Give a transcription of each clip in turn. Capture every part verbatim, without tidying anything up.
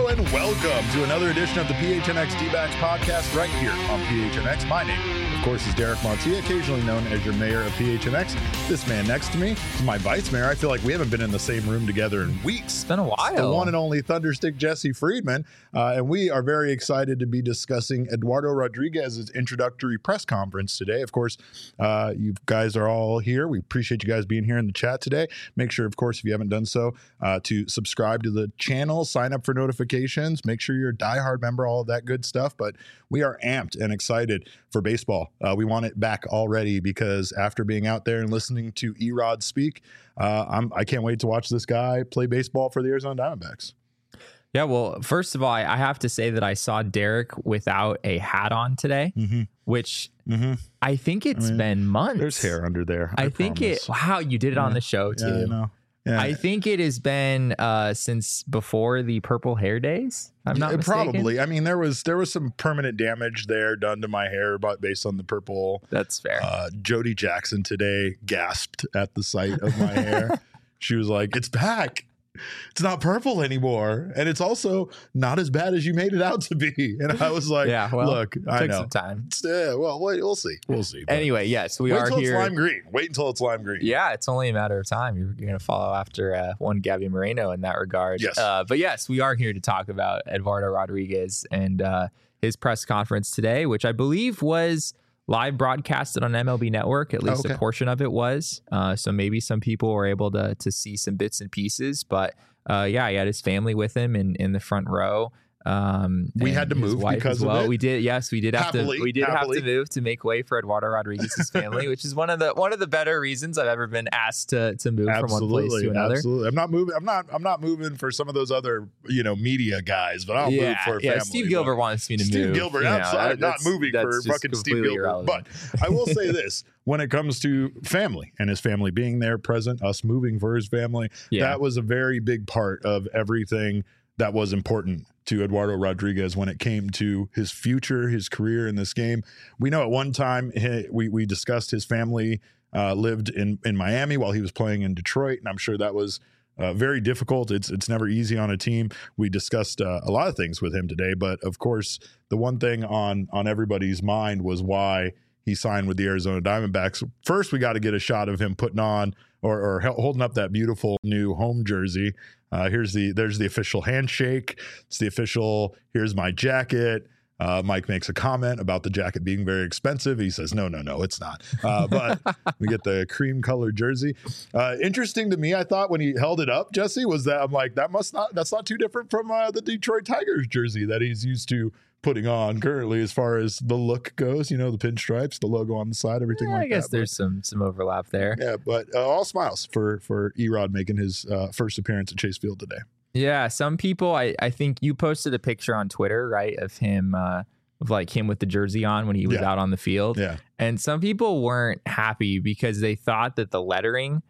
and welcome to another edition of the P H N X D-Backs podcast right here on P H N X. My name, of course, is Derek Montilla, occasionally known as your mayor of P H N X. This man next to me is my vice mayor. I feel like we haven't been in the same room together in weeks. It's been a while. The one and only Thunderstick Jesse Friedman. Uh, and we are very excited to be discussing Eduardo Rodriguez's introductory press conference today. Of course, uh, you guys are all here. We appreciate you guys being here in the chat today. Make sure, of course, if you haven't done so, uh, to subscribe to the channel, sign up for notifications, make sure you're a diehard member, all of that good stuff. But we are amped and excited for baseball. Uh, we want it back already because after being out there and listening to E-Rod speak, uh, I'm, I can't wait to watch this guy play baseball for the Arizona Diamondbacks. Yeah, well, first of all, I have to say that I saw Derek without a hat on today, mm-hmm. which mm-hmm. I think it's I mean, been months. There's hair under there. I, I think promise. it. Wow, you did it yeah. on the show too. Yeah, I know. Yeah. I think it has been uh, since before the purple hair days. I'm not yeah, mistaken. Probably. I mean, there was there was some permanent damage there done to my hair, but based on the purple. That's fair. Uh, Jody Jackson today gasped at the sight of my hair. She was like, "It's back. It's not purple anymore, and it's also not as bad as you made it out to be." And I was like, "Yeah, well, look, it I took know. some time. Yeah, well, wait, we'll see, we'll see." But anyway, yes, we wait are until here. It's lime green. Wait until it's lime green. Yeah, it's only a matter of time. You're, you're going to follow after uh, one Gabby Moreno in that regard. Yes, uh, but yes, we are here to talk about Eduardo Rodriguez and uh, his press conference today, which I believe was live broadcasted on M L B Network. At least oh, okay. a portion of it was. Uh, so maybe some people were able to to see some bits and pieces. But uh, yeah, he had his family with him in, in the front row. Um, we had to move because well. of it. We did. Yes, we did have happily, to. We did happily. have to move to make way for Eduardo Rodriguez's family, which is one of the one of the better reasons I've ever been asked to to move absolutely, from one place to another. Absolutely. I'm not moving. I'm not. I'm not moving for some of those other you know media guys, but I'll yeah, move for a yeah. family. Steve Gilbert but wants me to Steve move. Gilbert. You know, absolutely. I'm not that's, moving that's for fucking Steve Gilbert. Irrelevant. But I will say this: when it comes to family and his family being there, present, us moving for his family, yeah. that was a very big part of everything that was important to Eduardo Rodriguez when it came to his future, his career in this game. We know at one time he, we we discussed his family uh, lived in in Miami while he was playing in Detroit, and I'm sure that was uh, very difficult. It's it's never easy on a team. We discussed uh, a lot of things with him today, but of course, the one thing on on everybody's mind was why he signed with the Arizona Diamondbacks. First, we got to get a shot of him putting on or, or holding up that beautiful new home jersey. Uh, here's the there's the official handshake. It's the official. Here's my jacket. Uh, Mike makes a comment about the jacket being very expensive. He says, no, no, no, it's not. Uh, but we get the cream colored jersey. Uh, interesting to me, I thought when he held it up, Jesse, was that I'm like, that must not that's not too different from uh, the Detroit Tigers jersey that he's used to putting on currently as far as the look goes, you know, the pinstripes, the logo on the side, everything yeah, like that. I guess that. there's but, some some overlap there. Yeah, but uh, all smiles for for E-Rod making his uh, first appearance at Chase Field today. Yeah, some people, I, I think you posted a picture on Twitter, right, of him, uh, of like him with the jersey on when he was yeah. out on the field. Yeah. And some people weren't happy because they thought that the lettering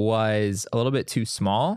was a little bit too small.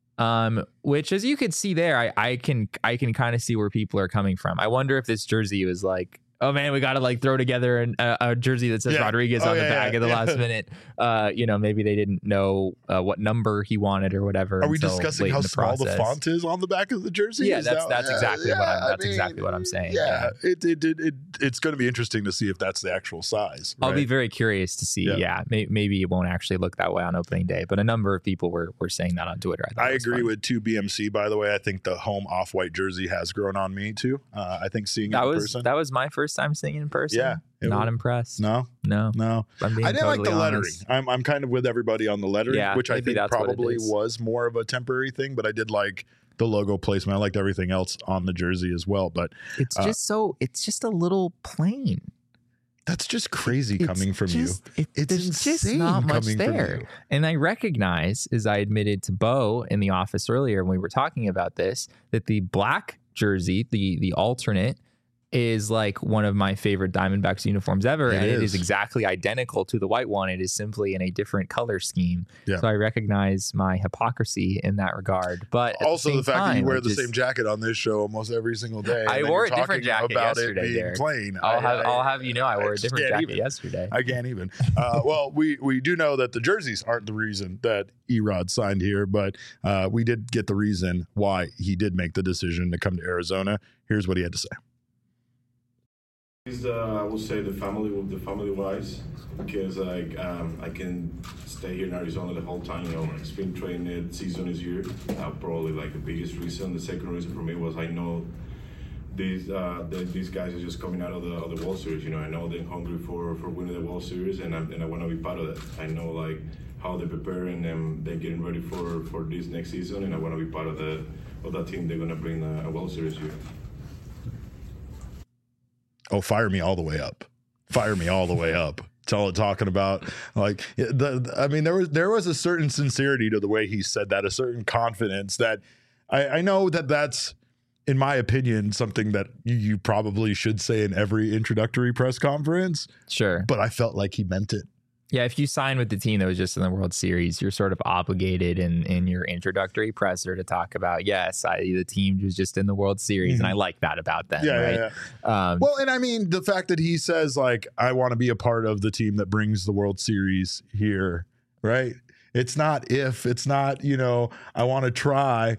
Um, which, as you could see there, I, I can I can kind of see where people are coming from. I wonder if this jersey was like, oh man, we got to like throw together an, a, a jersey that says yeah. Rodriguez oh, on yeah, the back yeah, at the yeah. last minute. Uh, you know, maybe they didn't know uh, what number he wanted or whatever. Are we discussing how the small process. the font is on the back of the jersey? Yeah, is that's that, that's uh, exactly yeah, what I'm. I That's mean, exactly what I'm saying. Yeah, yeah. It, it it it it's going to be interesting to see if that's the actual size. Right? I'll be very curious to see. Yeah, yeah may, maybe it won't actually look that way on opening day, but a number of people were were saying that on Twitter. I, I agree fun. with two B M C. By the way, I think the home off-white jersey has grown on me too. Uh, I think seeing that it in was person. that was my first time seeing it in person. Yeah. Not was, impressed. No, no, no. I'm being I didn't totally like the lettering. honest. I'm I'm kind of with everybody on the lettering, Yeah, which I think probably was more of a temporary thing. But I did like the logo placement. I liked everything else on the jersey as well. But it's uh, just so it's just a little plain. That's just crazy it's coming from just, you. It, it's there's just insane not much coming there. from you. And I recognize, as I admitted to Bo in the office earlier when we were talking about this, that the black jersey, the the alternate, is like one of my favorite Diamondbacks uniforms ever, It and is. it is exactly identical to the white one. It is simply in a different color scheme. Yeah. So I recognize my hypocrisy in that regard. But at Also, the, the, same fact time, that you wear I the just, same jacket on this show almost every single day. and I then wore you're a different talking jacket about yesterday, it being Derek. plain. I'll I, have I, I'll have you know I I wore a just different can't jacket even. yesterday. I can't even. Uh, well, we we do know that the jerseys aren't the reason that Erod signed here, but uh, we did get the reason why he did make the decision to come to Arizona. Here's what he had to say. Is the I would say the family with the family wise, because like um, I can stay here in Arizona the whole time. You know, like spring training season is here. Uh, probably like the biggest reason. The second reason for me was I know these uh, the, these guys are just coming out of the of the World Series. You know, I know they're hungry for, for winning the World Series, and I and I want to be part of that. I know like how they're preparing and they're getting ready for, for this next season, and I want to be part of the of that team. They're gonna bring a, a World Series here. Oh, fire me all the way up. Fire me all the way up. It's all talking about. Like, the, the- I mean, there was there was a certain sincerity to the way he said that, a certain confidence that I, I know that that's, in my opinion, something that you, you probably should say in every introductory press conference, Sure. but I felt like he meant it. Yeah, if you sign with the team that was just in the World Series, you're sort of obligated in, in your introductory presser to talk about, yes, I, the team was just in the World Series, Mm-hmm. and I like that about them, Yeah, right? yeah, yeah. Um, Well, and I mean, the fact that he says, like, I want to be a part of the team that brings the World Series here, right? It's not if, it's not, you know, I want to try.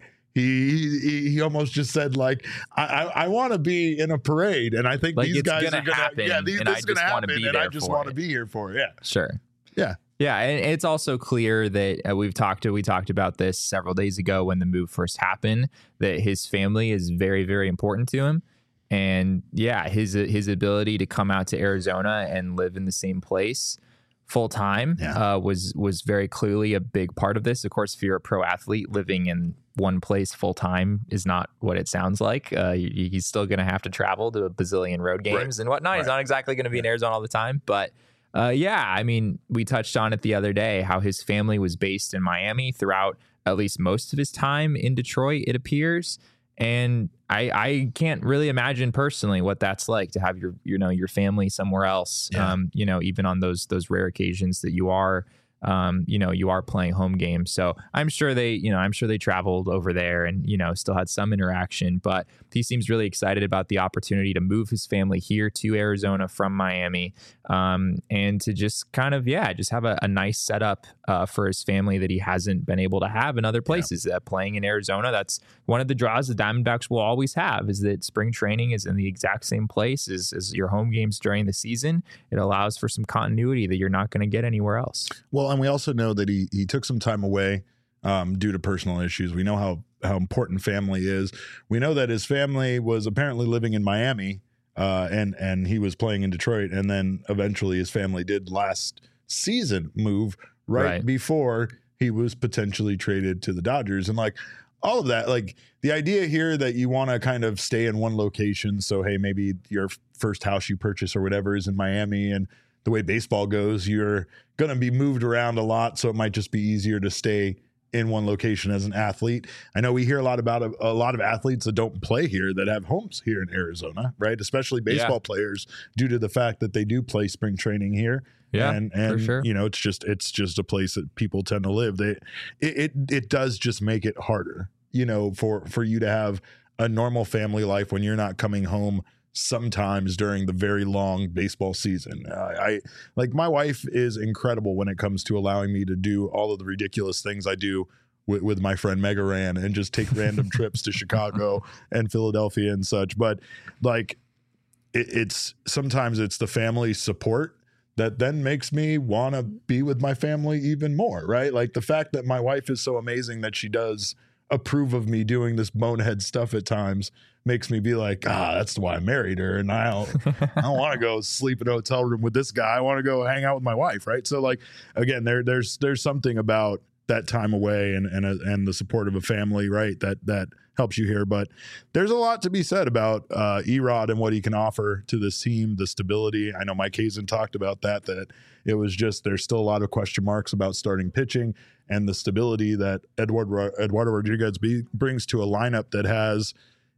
He, he he almost just said, like, I I, I want to be in a parade, and I think Like, these it's guys gonna are gonna happen, yeah, these, and this I is gonna just wanna happen, be and I there just for want to it. be here for it. Yeah, Sure. yeah, Yeah, and it's also clear that uh, we've talked to we talked about this several days ago when the move first happened, that his family is very, very important to him. And yeah, his his ability to come out to Arizona and live in the same place full time Yeah. uh, was was very clearly a big part of this. Of course, if you're a pro athlete, living in one place full time is not what it sounds like. Uh, he- he's still going to have to travel to a bazillion road games Right. and whatnot. He's Right. not exactly going to be in Arizona all the time, but uh, yeah, I mean, we touched on it the other day, how his family was based in Miami throughout at least most of his time in Detroit, it appears. And I, I can't really imagine personally what that's like to have your, you know, your family somewhere else. Yeah. Um, you know, even on those those rare occasions that you are, um, you know, you are playing home games. So I'm sure they, you know, I'm sure they traveled over there and, you know, still had some interaction. But he seems really excited about the opportunity to move his family here to Arizona from Miami, um, and to just kind of, yeah, just have a, a nice setup uh, for his family that he hasn't been able to have in other places. Uh, playing in Arizona, that's one of the draws the Diamondbacks will always have, is that spring training is in the exact same place as, as your home games during the season. It allows for some continuity that you're not going to get anywhere else. Well, and we also know that he he took some time away um, due to personal issues. We know how how important family is. We know that his family was apparently living in Miami, uh, and and he was playing in Detroit, and then eventually his family did last season move right, Right. before he was potentially traded to the Dodgers, and like all of that, like the idea here that you want to kind of stay in one location. So hey, maybe your first house you purchase or whatever is in Miami, and the way baseball goes, you're going to be moved around a lot. So it might just be easier to stay in one location as an athlete. I know we hear a lot about a, a lot of athletes that don't play here that have homes here in Arizona, right? Especially baseball Yeah. players, due to the fact that they do play spring training here. Yeah, and, for and sure. you know, it's just it's just a place that people tend to live. They it it, it does just make it harder, you know, for for you to have a normal family life when you're not coming home sometimes during the very long baseball season. Uh, I like my wife is incredible when it comes to allowing me to do all of the ridiculous things I do with, with my friend Mega Ran and just take random trips to Chicago and Philadelphia and such. But like it, it's sometimes it's the family support that then makes me want to be with my family even more, right? Like the fact that my wife is so amazing that she does approve of me doing this bonehead stuff at times makes me be like, ah, that's why I married her. And I don't, I don't want to go sleep in a hotel room with this guy. I want to go hang out with my wife. Right. So like, again, there, there's, there's something about that time away and, and, a, and the support of a family, right. That, that helps you here, but there's a lot to be said about uh, Erod and what he can offer to this team, the stability. I know Mike Hazen talked about that, that it was just, there's still a lot of question marks about starting pitching and the stability that Edward, Eduardo Rodriguez be, brings to a lineup that has,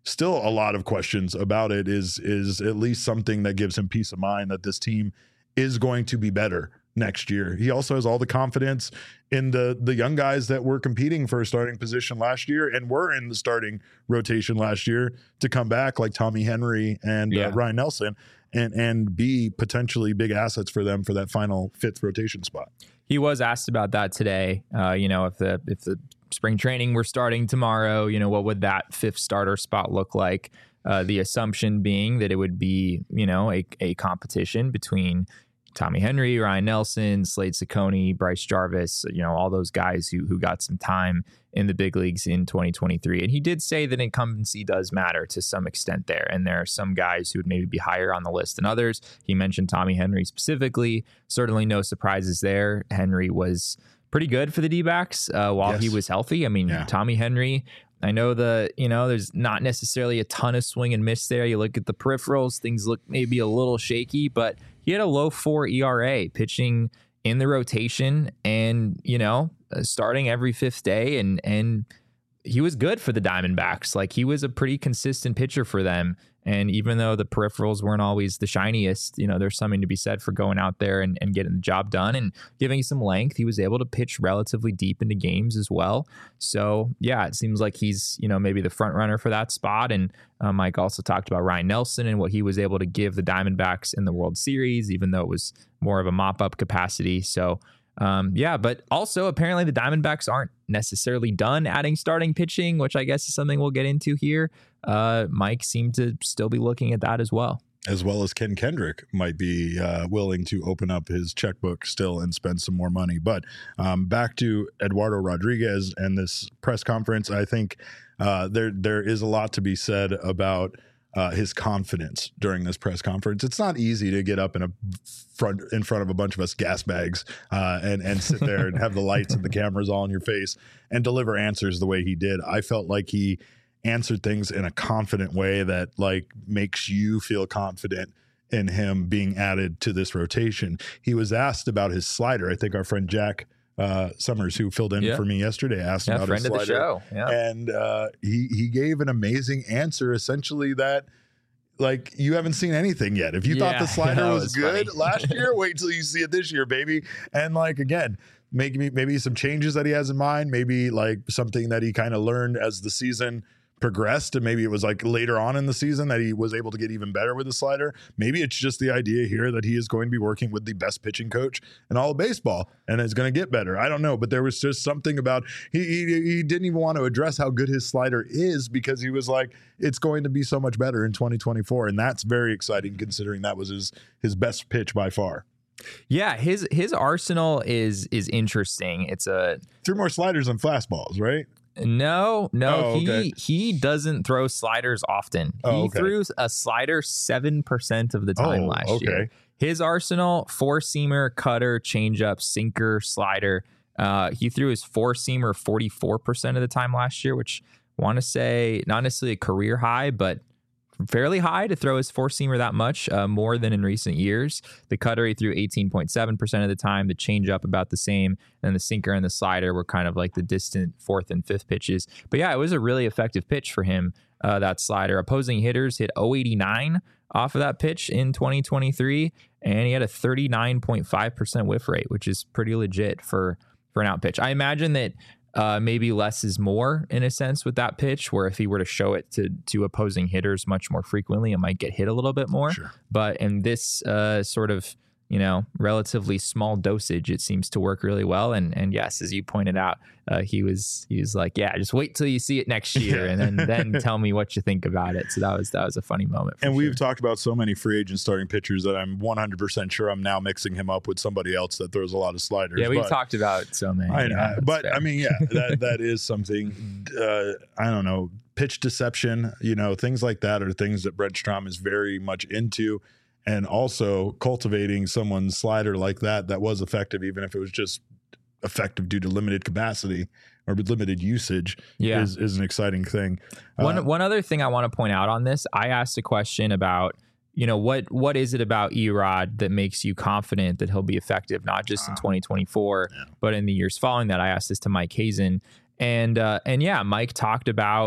still a lot of questions about it, is is at least something that gives him peace of mind that this team is going to be better next year. He also has all the confidence in the the young guys that were competing for a starting position last year and were in the starting rotation last year to come back, like Tommy Henry and Yeah. uh, Ryan Nelson, and and be potentially big assets for them for that final fifth rotation spot. He was asked about that today. Uh, you know, if the if the spring training were starting tomorrow, you know, what would that fifth starter spot look like? Uh, the assumption being that it would be, you know, a, a competition between Tommy Henry, Ryan Nelson, Slade Ciccone, Bryce Jarvis, you know, all those guys who who got some time in the big leagues in twenty twenty-three. And he did say that incumbency does matter to some extent there. And there are some guys who would maybe be higher on the list than others. He mentioned Tommy Henry specifically. Certainly no surprises there. Henry was pretty good for the D-backs uh, while Yes. he was healthy. I mean, Yeah. Tommy Henry, I know the, you know, there's not necessarily a ton of swing and miss there. You look at the peripherals, things look maybe a little shaky, but he had a low four E R A pitching in the rotation and, you know, uh, starting every fifth day. And, and he was good for the Diamondbacks. Like, he was a pretty consistent pitcher for them. And even though the peripherals weren't always the shiniest, you know, there's something to be said for going out there and, and getting the job done and giving some length. He was able to pitch relatively deep into games as well. So, yeah, it seems like he's, you know, maybe the front runner for that spot. And uh, Mike also talked about Ryan Nelson and what he was able to give the Diamondbacks in the World Series, even though it was more of a mop-up capacity. So, Um, yeah, but also apparently the Diamondbacks aren't necessarily done adding starting pitching, which I guess is something we'll get into here. Uh, Mike seemed to still be looking at that as well. As well as Ken Kendrick might be uh, willing to open up his checkbook still and spend some more money. But um, back to Eduardo Rodriguez and this press conference, I think uh, there there is a lot to be said about Uh, his confidence during this press conference. It's not easy to get up in a front in front of a bunch of us gas bags uh, and and sit there and have the lights and the cameras all in your face and deliver answers the way he did. I felt like he answered things in a confident way that like makes you feel confident in him being added to this rotation. He was asked about his slider. I think our friend Jack uh, Summers, who filled in Yeah. for me yesterday, asked Yeah, about friend his of the slider. show. Yeah. And uh, he he gave an amazing answer, essentially that like you haven't seen anything yet. If you thought Yeah, the slider that was, was good funny. last year, wait till you see it this year, baby. And like again, maybe maybe some changes that he has in mind, maybe like something that he kind of learned as the season progressed, and maybe it was like later on in the season that he was able to get even better with the slider. Maybe it's just the idea here that he is going to be working with the best pitching coach in all of baseball and is going to get better. I don't know, but there was just something about he, he he didn't even want to address how good his slider is because he was like, it's going to be so much better in twenty twenty-four, and that's very exciting considering that was his his best pitch by far. Yeah, his his arsenal is is interesting. It's a Threw more sliders than fastballs, right? No, no, Oh, okay. he he doesn't throw sliders often. Oh, he okay. threw a slider seven percent of the time Oh, last okay. year. His arsenal: four seamer, cutter, changeup, sinker, slider. Uh, he threw his four seamer forty-four percent of the time last year, which I want to say not necessarily a career high, but fairly high to throw his four seamer that much, uh, more than in recent years. The cutter he threw eighteen point seven percent of the time, the changeup about the same, and the sinker and the slider were kind of like the distant fourth and fifth pitches. But yeah, it was a really effective pitch for him, uh, that slider. Opposing hitters hit oh eighty-nine off of that pitch in twenty twenty-three, and he had a thirty-nine point five percent whiff rate, which is pretty legit for, for an out pitch. I imagine that Uh, maybe less is more in a sense with that pitch, where if he were to show it to to opposing hitters much more frequently, it might get hit a little bit more. Sure. But in this uh, sort of, you know, relatively small dosage, it seems to work really well. And and yes, as you pointed out, uh, he was he was like, yeah, just wait till you see it next year, Yeah. and then then tell me what you think about it. So that was that was a funny moment. For And sure. we've talked about so many free agent starting pitchers that I'm one hundred percent sure I'm now mixing him up with somebody else that throws a lot of sliders. yeah, we've but, talked about so many. I know, yeah, that's but fair. I mean, yeah, that that is something. Uh, I don't know, pitch deception, you know, things like that are things that Brent Strom is very much into, and also cultivating someone's slider like that that was effective, even if it was just effective due to limited capacity or limited usage, Yeah. is is an exciting thing. One Uh, one other thing I want to point out on this, I asked a question about, you know, what what is it about Erod that makes you confident that he'll be effective, not just in twenty twenty-four, Yeah. but in the years following that. I asked this to Mike Hazen, and uh, and yeah, Mike talked about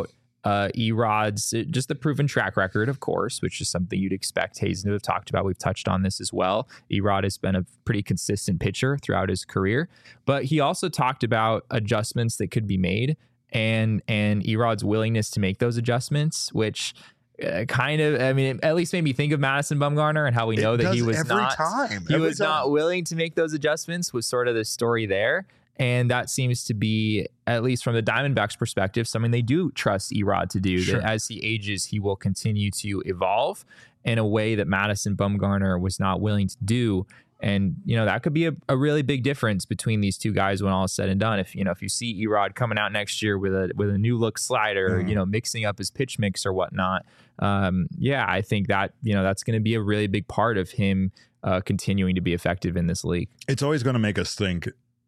uh, Erod's just the proven track record, of course, which is something you'd expect Hazen to have talked about. We've touched on this as well. Erod has been a pretty consistent pitcher throughout his career, but he also talked about adjustments that could be made and and Erod's willingness to make those adjustments, which uh, kind of, I mean, it at least made me think of Madison Bumgarner and how we know It that he does was every not time. he Every was time. not willing to make those adjustments was sort of the story there. And that seems to be, at least from the Diamondbacks' perspective, something they do trust Erod to do. Sure. That as he ages, he will continue to evolve in a way that Madison Bumgarner was not willing to do. And, you know, that could be a, a really big difference between these two guys when all is said and done. If, you know, if you see Erod coming out next year with a with a new look slider, Mm-hmm. you know, mixing up his pitch mix or whatnot, um, yeah, I think that, you know, that's going to be a really big part of him uh, continuing to be effective in this league. It's always going to make us think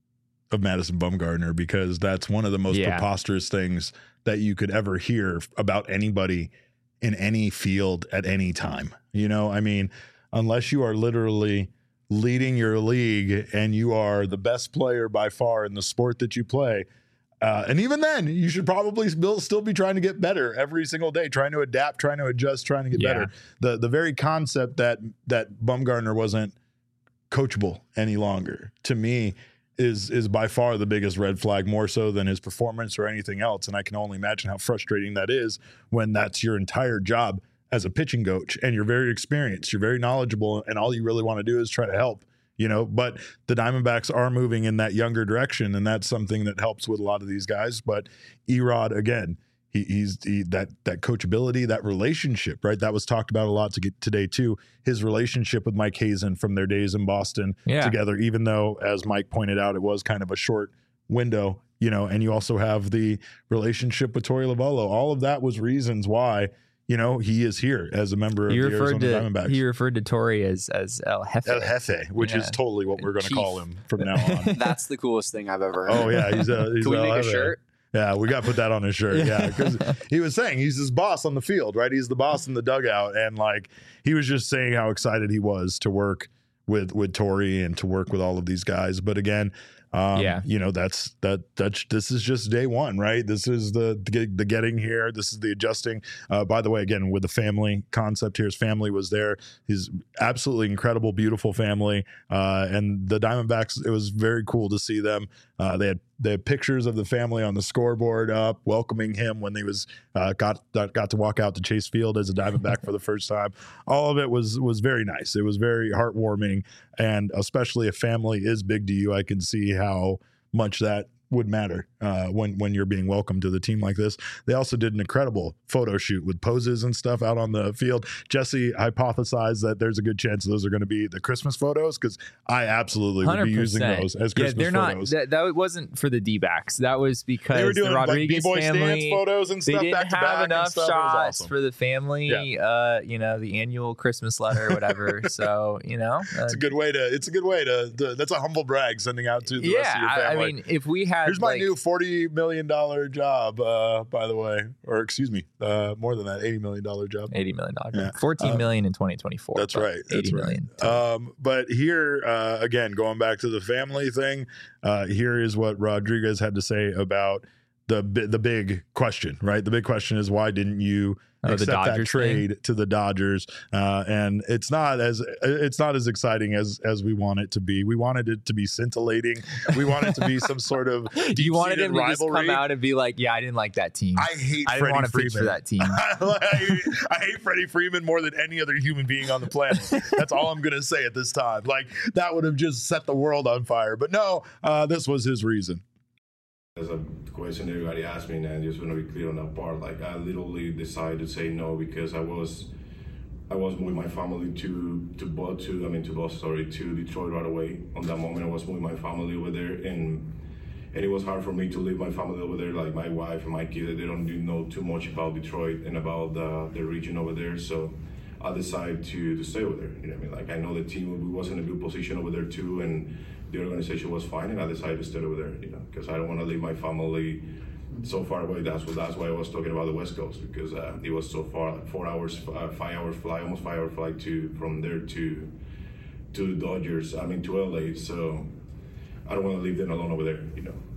of Madison Bumgarner because that's one of the most Yeah. preposterous things that you could ever hear about anybody in any field at any time. You know, I mean, unless you are literally leading your league and you are the best player by far in the sport that you play. Uh, and even then, you should probably still still be trying to get better every single day, trying to adapt, trying to adjust, trying to get Yeah. better. The the very concept that that Bumgarner wasn't coachable any longer, to me, is is by far the biggest red flag, more so than his performance or anything else. And I can only imagine how frustrating that is when that's your entire job as a pitching coach and you're very experienced, you're very knowledgeable, and all you really want to do is try to help, you know. But the Diamondbacks are moving in that younger direction, and that's something that helps with a lot of these guys. But Erod, again, he, he's he, that that coachability, that relationship, right? That was talked about a lot to get today too. His relationship with Mike Hazen from their days in Boston Yeah. together, even though, as Mike pointed out, it was kind of a short window, you know. And you also have the relationship with Torey Lovullo. All of that was reasons why, you know, he is here as a member of He the referred Arizona to Diamondbacks. he referred to Torey as as El Jefe. El Jefe, which Yeah. is totally what we're going to Chief. call him from now on. That's the coolest thing I've ever heard. Oh yeah, he's a. He's Can we El make a Jefe. shirt? Yeah, we got to put that on his shirt. Yeah, because he was saying he's his boss on the field, right? He's the boss in the dugout, and like he was just saying how excited he was to work with with Torey and to work with all of these guys. But again, um, Yeah. you know, that's that that's this is just day one, right? This is the the, the getting here. This is the adjusting. Uh, by the way, again, with the family concept here, his family was there. His absolutely incredible, beautiful family, uh, and the Diamondbacks. It was very cool to see them. Uh, they had they had pictures of the family on the scoreboard up, welcoming him when they was uh, got got to walk out to Chase Field as a Diamondback for the first time. All of it was was very nice. It was very heartwarming, and especially if family is big to you, I can see how much that would matter uh, when when you're being welcomed to the team like this. They also did an incredible photo shoot with poses and stuff out on the field. Jesse hypothesized that there's a good chance those are going to be the Christmas photos because I absolutely would be using those as Yeah, Christmas they're not. photos. That, that wasn't for the D-backs. That was because They were doing the like Rodriguez B-boy stance family. photos and They stuff didn't back to have back and enough stuff. It was shots awesome. for the family. Uh, you know, the annual Christmas letter or whatever. So you know, uh, It's a good way to. It's a good way to. to that's a humble brag sending out to the yeah. rest of your I, I family. mean, if we had Here's my like, new forty million dollar job. Uh, by the way, or excuse me, uh, more than that, eighty million dollar job. eighty million dollars, Yeah. fourteen Uh, million in twenty twenty-four. That's but right. That's eighty right. million. Um, but here uh, again, going back to the family thing, uh, here is what Rodriguez had to say about the bi- the big question. Right, the big question is why didn't you Oh, the accept that Dodgers trade to the Dodgers? Uh, and it's not as it's not as exciting as as we want it to be. We wanted it to be scintillating. We want it to be some sort of You wanted him to deep-seated just come rivalry. out and be like, "Yeah, I didn't like that team. I hate I didn't Freddie want to Freeman. pitch for that team." I, I hate Freddie Freeman more than any other human being on the planet. That's all I'm going to say at this time. Like, that would have just set the world on fire. But no, uh, this was his reason. There's a question everybody asked me, and I just want to be clear on that part. Like, I literally decided to say no because I was, I was moving my family to to Bo- to I mean to Boston, sorry, to Detroit right away. On that moment, I was moving my family over there, and and it was hard for me to leave my family over there. Like my wife and my kid, they don't do know too much about Detroit and about the the region over there. So I decided to to stay over there. You know what I mean? Like, I know the team was in a good position over there too, and the organization was fine, and I decided to stay over there, you know, because I don't want to leave my family so far away. That's what that's why I was talking about the West Coast, because uh, it was so far, like four hours, uh, five hours flight, almost five hour flight to from there to to Dodgers. I mean to L A. So I don't want to leave them alone over there, you know.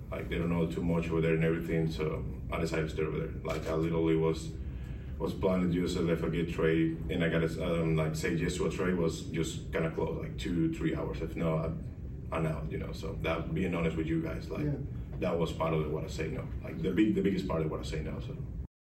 Like they don't know too much over there and everything. So I decided to stay over there. Like I literally was was planning just to if I get trade and I got to um, like say yes to a trade was just kind of close, like two three hours. If no, I, I'm out. You know. So that being honest with you guys, like yeah. that was part of what I say no. Like the big the biggest part of what I say no. So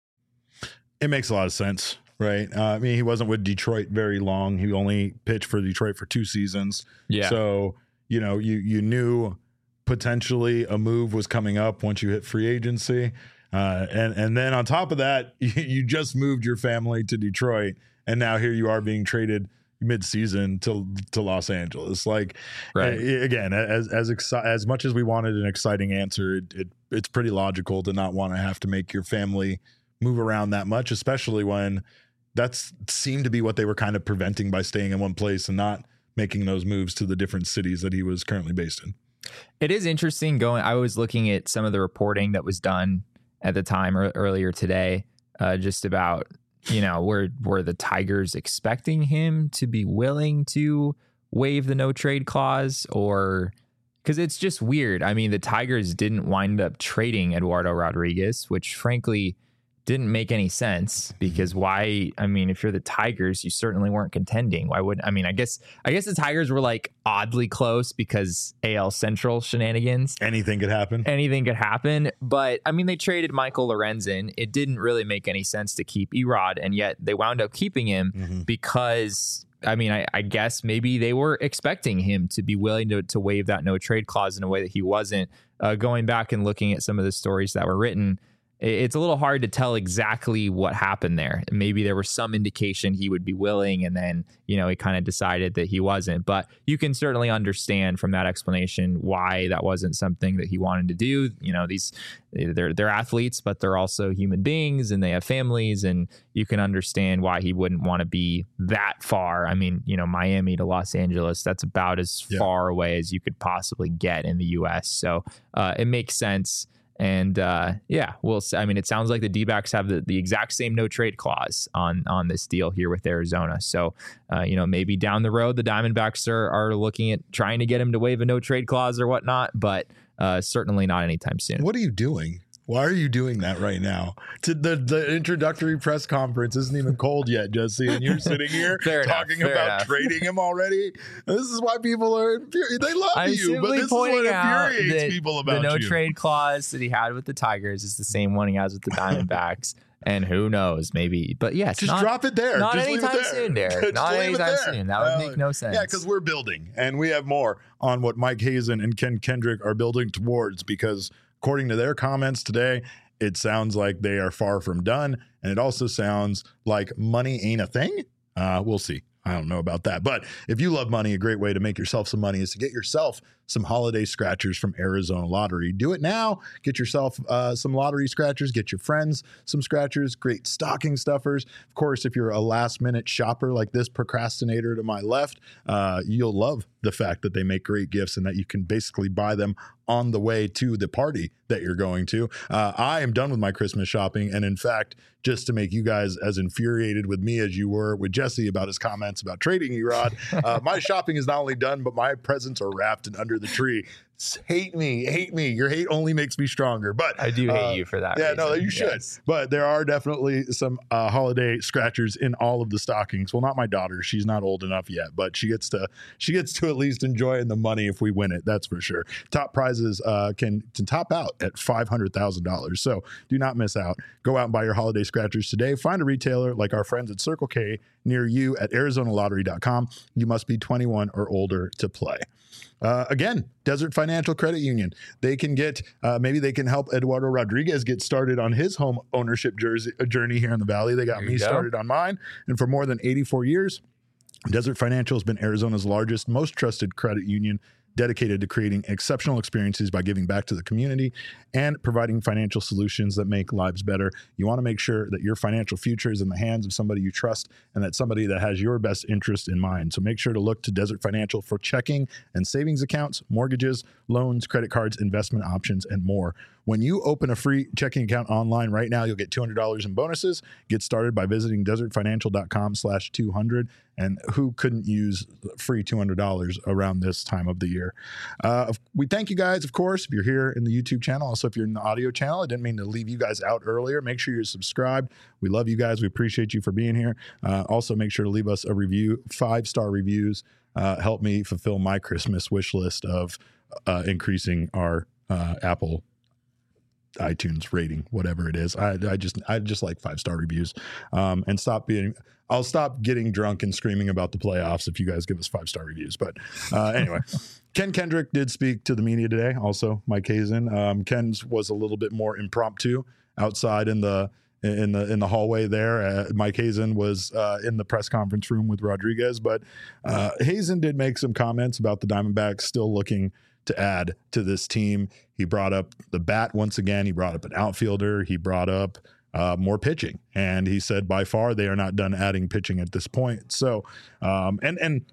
it makes a lot of sense. Right. Uh, I mean, he wasn't with Detroit very long. He only pitched for Detroit for two seasons. Yeah. So, you know, you you knew potentially a move was coming up once you hit free agency. Uh, and, and then on top of that, you, you just moved your family to Detroit. And now here you are being traded mid-season to to Los Angeles. Like, right. uh, again, as as exci- as much as we wanted an exciting answer, it, it it's pretty logical to not want to have to make your family move around that much, especially when that's seemed to be what they were kind of preventing by staying in one place and not making those moves to the different cities that he was currently based in. It is interesting going. I was looking at some of the reporting that was done at the time or earlier today, uh, just about, you know, were, were the Tigers expecting him to be willing to waive the no trade clause, or because it's just weird. I mean, the Tigers didn't wind up trading Eduardo Rodriguez, which frankly didn't make any sense, because why? I mean, if you're the Tigers, you certainly weren't contending. Why would I mean, I guess I guess the Tigers were like oddly close because A L Central shenanigans. Anything could happen. Anything could happen. But I mean, they traded Michael Lorenzen. It didn't really make any sense to keep Erod, and yet they wound up keeping him mm-hmm. because I mean, I, I guess maybe they were expecting him to be willing to, to waive that no trade clause in a way that he wasn't. Uh, going back and looking at some of the stories that were written, it's a little hard to tell exactly what happened there. Maybe there was some indication he would be willing, and then, you know, he kind of decided that he wasn't. But you can certainly understand from that explanation why that wasn't something that he wanted to do. You know, these they're they're athletes, but they're also human beings, and they have families, and you can understand why he wouldn't want to be that far. I mean, you know, Miami to Los Angeles, that's about as yeah. far away as you could possibly get in the U S. So uh, it makes sense. And uh, yeah, we'll I mean, it sounds like the D-backs have the, the exact same no trade clause on on this deal here with Arizona. So, uh, you know, maybe down the road, the Diamondbacks are, are looking at trying to get him to waive a no trade clause or whatnot, but uh, certainly not anytime soon. What are you doing? Why are you doing that right now? To the, the introductory press conference isn't even cold yet, Jesse, and you're sitting here talking enough, about enough. trading him already. This is why people are infuriated. They love I'm you, but this is what infuriates people about the no you. trade clause that he had with the Tigers is the same one he has with the Diamondbacks. And who knows, maybe. But yes, just not, drop it there. Not just anytime there. soon, Derek. Not anytime soon. That would uh, make no sense. Yeah, because we're building, and we have more on what Mike Hazen and Ken Kendrick are building towards, because according to their comments today, it sounds like they are far from done. And it also sounds like money ain't a thing. Uh, we'll see. I don't know about that. But if you love money, a great way to make yourself some money is to get yourself some holiday scratchers from Arizona Lottery. Do it now. Get yourself uh, some lottery scratchers. Get your friends some scratchers. Great stocking stuffers. Of course, if you're a last minute shopper like this procrastinator to my left, uh, you'll love the fact that they make great gifts and that you can basically buy them on the way to the party that you're going to. Uh, I am done with my Christmas shopping. And in fact, just to make you guys as infuriated with me as you were with Jesse about his comments about trading Erod, uh, my shopping is not only done, but my presents are wrapped and under the tree. Hate me, hate me. Your hate only makes me stronger. But I do hate uh, you for that. Yeah, reason. no, you should. Yes. But there are definitely some uh, holiday scratchers in all of the stockings. Well, not my daughter; she's not old enough yet, but she gets to she gets to at least enjoy the money if we win it. That's for sure. Top prizes uh, can can top out at five hundred thousand dollars. So do not miss out. Go out and buy your holiday scratchers today. Find a retailer like our friends at Circle K near you at Arizona Lottery dot com. You must be twenty-one or older to play. Uh, again, Desert Financial Credit Union. They can get, uh, maybe they can help Eduardo Rodriguez get started on his home ownership jersey, journey here in the Valley. They got There me you go. started on mine. And for more than eighty-four years, Desert Financial has been Arizona's largest, most trusted credit union, dedicated to creating exceptional experiences by giving back to the community and providing financial solutions that make lives better. You want to make sure that your financial future is in the hands of somebody you trust and that somebody that has your best interest in mind. So make sure to look to Desert Financial for checking and savings accounts, mortgages, loans, credit cards, investment options, and more. When you open a free checking account online right now, you'll get two hundred dollars in bonuses. Get started by visiting desertfinancial.com slash 200. And who couldn't use free two hundred dollars around this time of the year? Uh, we thank you guys, of course, if you're here in the YouTube channel. Also, if you're in the audio channel, I didn't mean to leave you guys out earlier. Make sure you're subscribed. We love you guys. We appreciate you for being here. Uh, also, make sure to leave us a review. Five-star reviews uh, help me fulfill my Christmas wish list of uh, increasing our uh, Apple iTunes rating, whatever it is. I, I just I just like five-star reviews. Um, and stop being... I'll stop getting drunk and screaming about the playoffs if you guys give us five-star reviews. But uh, anyway, Ken Kendrick did speak to the media today. Also, Mike Hazen. Um, Ken's was a little bit more impromptu outside in the in the in the hallway there. Uh, Mike Hazen was uh, in the press conference room with Rodriguez, but uh, Hazen did make some comments about the Diamondbacks still looking to add to this team. He brought up the bat once again. He brought up an outfielder. He brought up Uh, more pitching, and he said by far they are not done adding pitching at this point. So, um, and and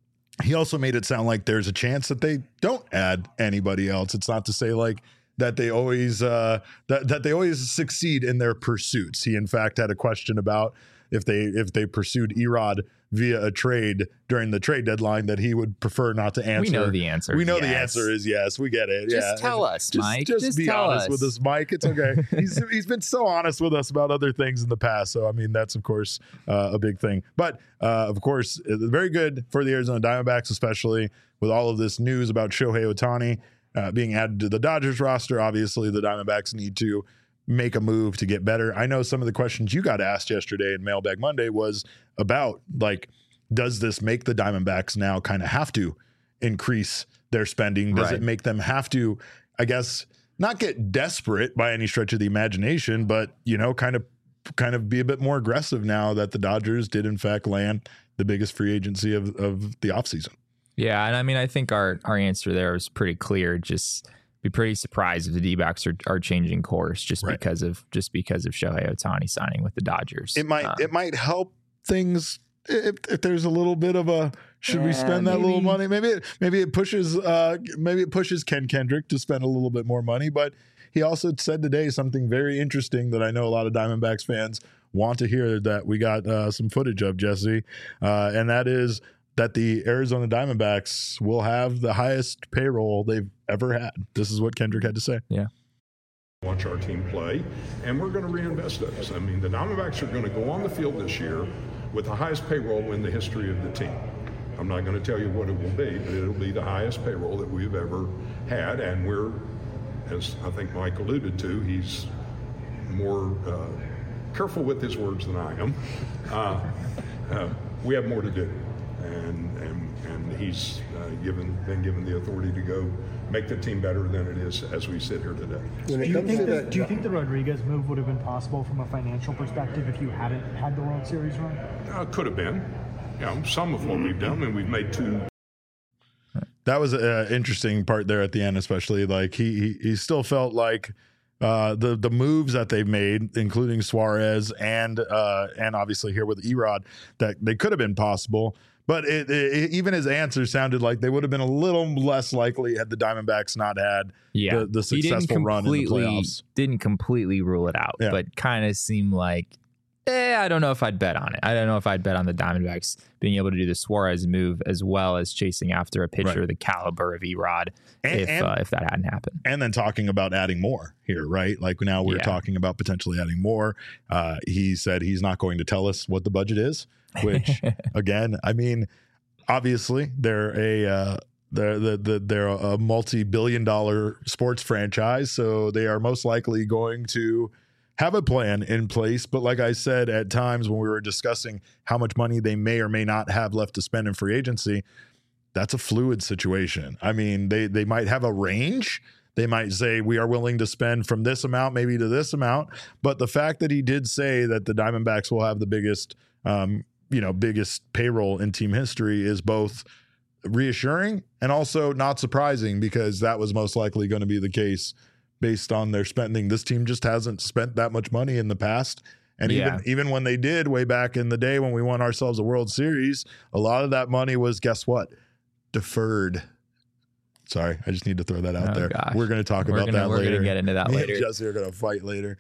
he also made it sound like there's a chance that they don't add anybody else. It's not to say like that they always uh, that that they always succeed in their pursuits. He in fact had a question about if they if they pursued Erod via a trade during the trade deadline that he would prefer not to answer. We know the answer. We know yes. the answer is yes. We get it. Just yeah. tell us, just, Mike. Just, just be tell honest us. with us, Mike. It's okay. he's he's been so honest with us about other things in the past. So I mean, that's of course uh, a big thing. But uh, of course, very good for the Arizona Diamondbacks, especially with all of this news about Shohei Ohtani uh, being added to the Dodgers roster. Obviously, the Diamondbacks need to make a move to get better. I know some of the questions you got asked yesterday in Mailbag Monday was about like, does this make the Diamondbacks now kind of have to increase their spending? Does right. it make them have to, I guess, not get desperate by any stretch of the imagination, but, you know, kind of kind of be a bit more aggressive now that the Dodgers did in fact land the biggest free agency of, of the offseason? Yeah, and I mean, I think our, our answer there was pretty clear. Just be pretty surprised if the D-backs are, are changing course just right. because of just because of Shohei Ohtani signing with the Dodgers. It might um, it might help things if, if there's a little bit of a should yeah, we spend that maybe. little money? Maybe it, maybe it pushes uh, maybe it pushes Ken Kendrick to spend a little bit more money. But he also said today something very interesting that I know a lot of Diamondbacks fans want to hear that we got uh, some footage of, Jesse, uh, and that is that the Arizona Diamondbacks will have the highest payroll they've ever had. This is what Kendrick had to say. Yeah. Watch our team play, and we're going to reinvest those. I mean, the Diamondbacks are going to go on the field this year with the highest payroll in the history of the team. I'm not going to tell you what it will be, but it'll be the highest payroll that we've ever had, and we're, as I think Mike alluded to, he's more uh, careful with his words than I am. Uh, uh, we have more to do. And, and and he's uh, given been given the authority to go make the team better than it is as we sit here today. Do you, think the, do you think the Rodriguez move would have been possible from a financial perspective if you hadn't had the World Series run? Uh, could have been. You know, some of what we've done, and we've made two. That was an interesting part there at the end, especially like he he, he still felt like uh, the the moves that they've made, including Suarez and uh, and obviously here with Erod, that they could have been possible. But it, it, even his answer sounded like they would have been a little less likely had the Diamondbacks not had yeah. the, the successful run in the playoffs. Didn't completely rule it out, yeah. but kind of seemed like, eh, I don't know if I'd bet on it. I don't know if I'd bet on the Diamondbacks being able to do the Suarez move as well as chasing after a pitcher right. the caliber of Erod and, if and, uh, if that hadn't happened. And then talking about adding more here, right? Like now we're yeah. talking about potentially adding more. Uh, he said he's not going to tell us what the budget is, which again, I mean, obviously they're a uh, they're the, they're a multi-billion dollar sports franchise, so they are most likely going to have a plan in place. But like I said, at times when we were discussing how much money they may or may not have left to spend in free agency, that's a fluid situation. I mean, they they might have a range. They might say we are willing to spend from this amount maybe to this amount. But the fact that he did say that the Diamondbacks will have the biggest um, you know, biggest payroll in team history is both reassuring and also not surprising, because that was most likely going to be the case based on their spending. This team just hasn't spent that much money in the past. And yeah. even even when they did way back in the day when we won ourselves a World Series, a lot of that money was, guess what? Deferred. Sorry, I just need to throw that out Oh, there. gosh. We're going to talk We're about gonna- that we're later. gonna get into that Me later. and Jesse are going to fight later.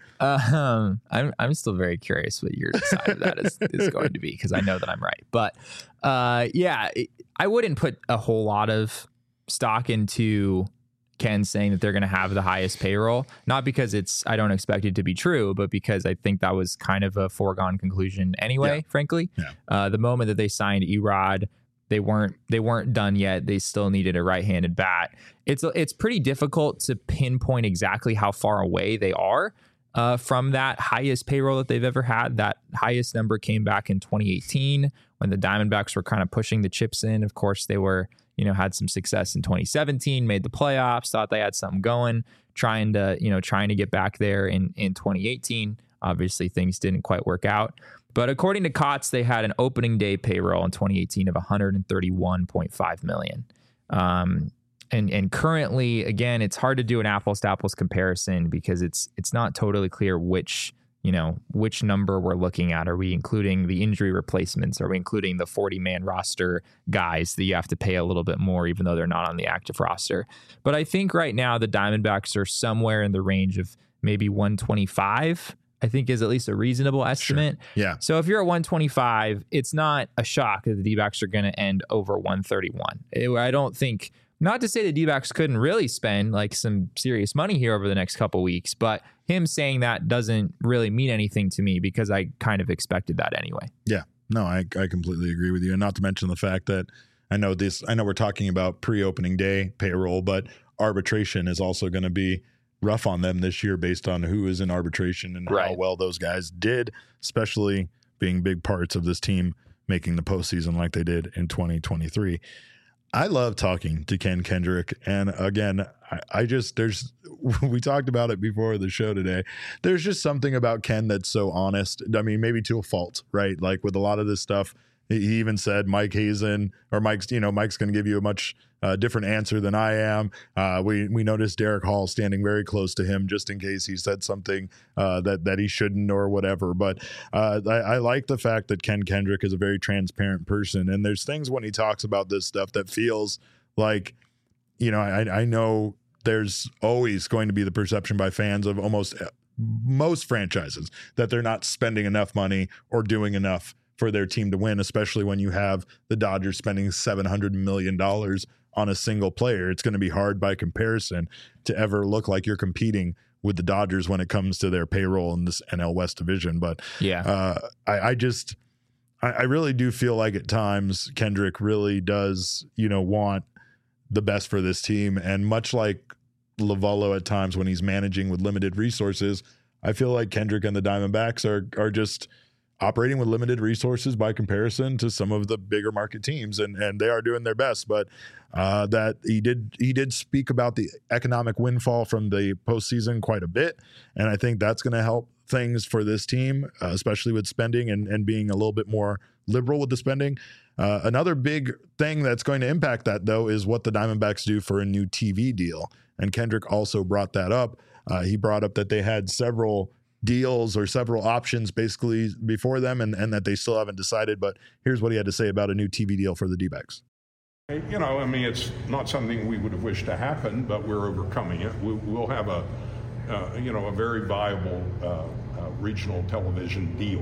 Um, I'm I'm still very curious what your side of that is, is going to be, because I know that I'm right. But uh, yeah, it, I wouldn't put a whole lot of stock into Ken saying that they're going to have the highest payroll, not because it's I don't expect it to be true, but because I think that was kind of a foregone conclusion anyway. Yeah. Frankly, Yeah. uh, the moment that they signed Erod, they weren't they weren't done yet. They still needed a right-handed bat. It's it's pretty difficult to pinpoint exactly how far away they are uh, from that highest payroll that they've ever had. That highest number came back in twenty eighteen when the Diamondbacks were kind of pushing the chips in. Of course, they were, you know, had some success in twenty seventeen, made the playoffs, thought they had something going, trying to, you know, trying to get back there in, in twenty eighteen. Obviously, things didn't quite work out. But according to Cots, they had an opening day payroll in twenty eighteen of one hundred thirty-one point five million dollars. Um, and and currently, again, it's hard to do an apples to apples comparison because it's it's not totally clear which, you know, which number we're looking at. Are we including the injury replacements? Are we including the forty man roster guys that you have to pay a little bit more, even though they're not on the active roster? But I think right now the Diamondbacks are somewhere in the range of maybe one twenty-five, I think is at least a reasonable estimate. Sure. Yeah. So if you're at one twenty-five, it's not a shock that the D-backs are going to end over one thirty-one. It, I don't think, not to say the D-backs couldn't really spend like some serious money here over the next couple weeks, but him saying that doesn't really mean anything to me because I kind of expected that anyway. Yeah. No, I, I completely agree with you. And not to mention the fact that I know this, I know we're talking about pre-opening day payroll, but arbitration is also going to be rough on them this year based on who is in arbitration and Right. how well those guys did, especially being big parts of this team making the postseason like they did in twenty twenty-three. I love talking to Ken Kendrick. And again, I, I just, there's, we talked about it before the show today. There's just something about Ken that's so honest. I mean, maybe to a fault, right? Like with a lot of this stuff, he even said Mike Hazen or Mike's, you know, Mike's going to give you a much uh, different answer than I am. Uh, we we noticed Derek Hall standing very close to him just in case he said something uh, that that he shouldn't or whatever. But uh, I, I like the fact that Ken Kendrick is a very transparent person, and there's things when he talks about this stuff that feels like, you know, I, I know there's always going to be the perception by fans of almost most franchises that they're not spending enough money or doing enough for their team to win, especially when you have the Dodgers spending seven hundred million dollars on a single player. It's going to be hard by comparison to ever look like you're competing with the Dodgers when it comes to their payroll in this N L West division. But Yeah. uh, I, I just, I, I really do feel like at times Kendrick really does, you know, want the best for this team. And much like Lovello at times when he's managing with limited resources, I feel like Kendrick and the Diamondbacks are are just operating with limited resources by comparison to some of the bigger market teams, and and they are doing their best. But uh, that he did he did speak about the economic windfall from the postseason quite a bit, and I think that's going to help things for this team, uh, especially with spending and and being a little bit more liberal with the spending. Uh, another big thing that's going to impact that, though, is what the Diamondbacks do for a new T V deal. And Kendrick also brought that up. Uh, he brought up that they had several deals or several options basically before them and, and that they still haven't decided. But here's what he had to say about a new T V deal for the D-backs. You know, I mean, it's not something we would have wished to happen, but we're overcoming it. We, we'll have a, uh, you know, a very viable uh, uh, regional television deal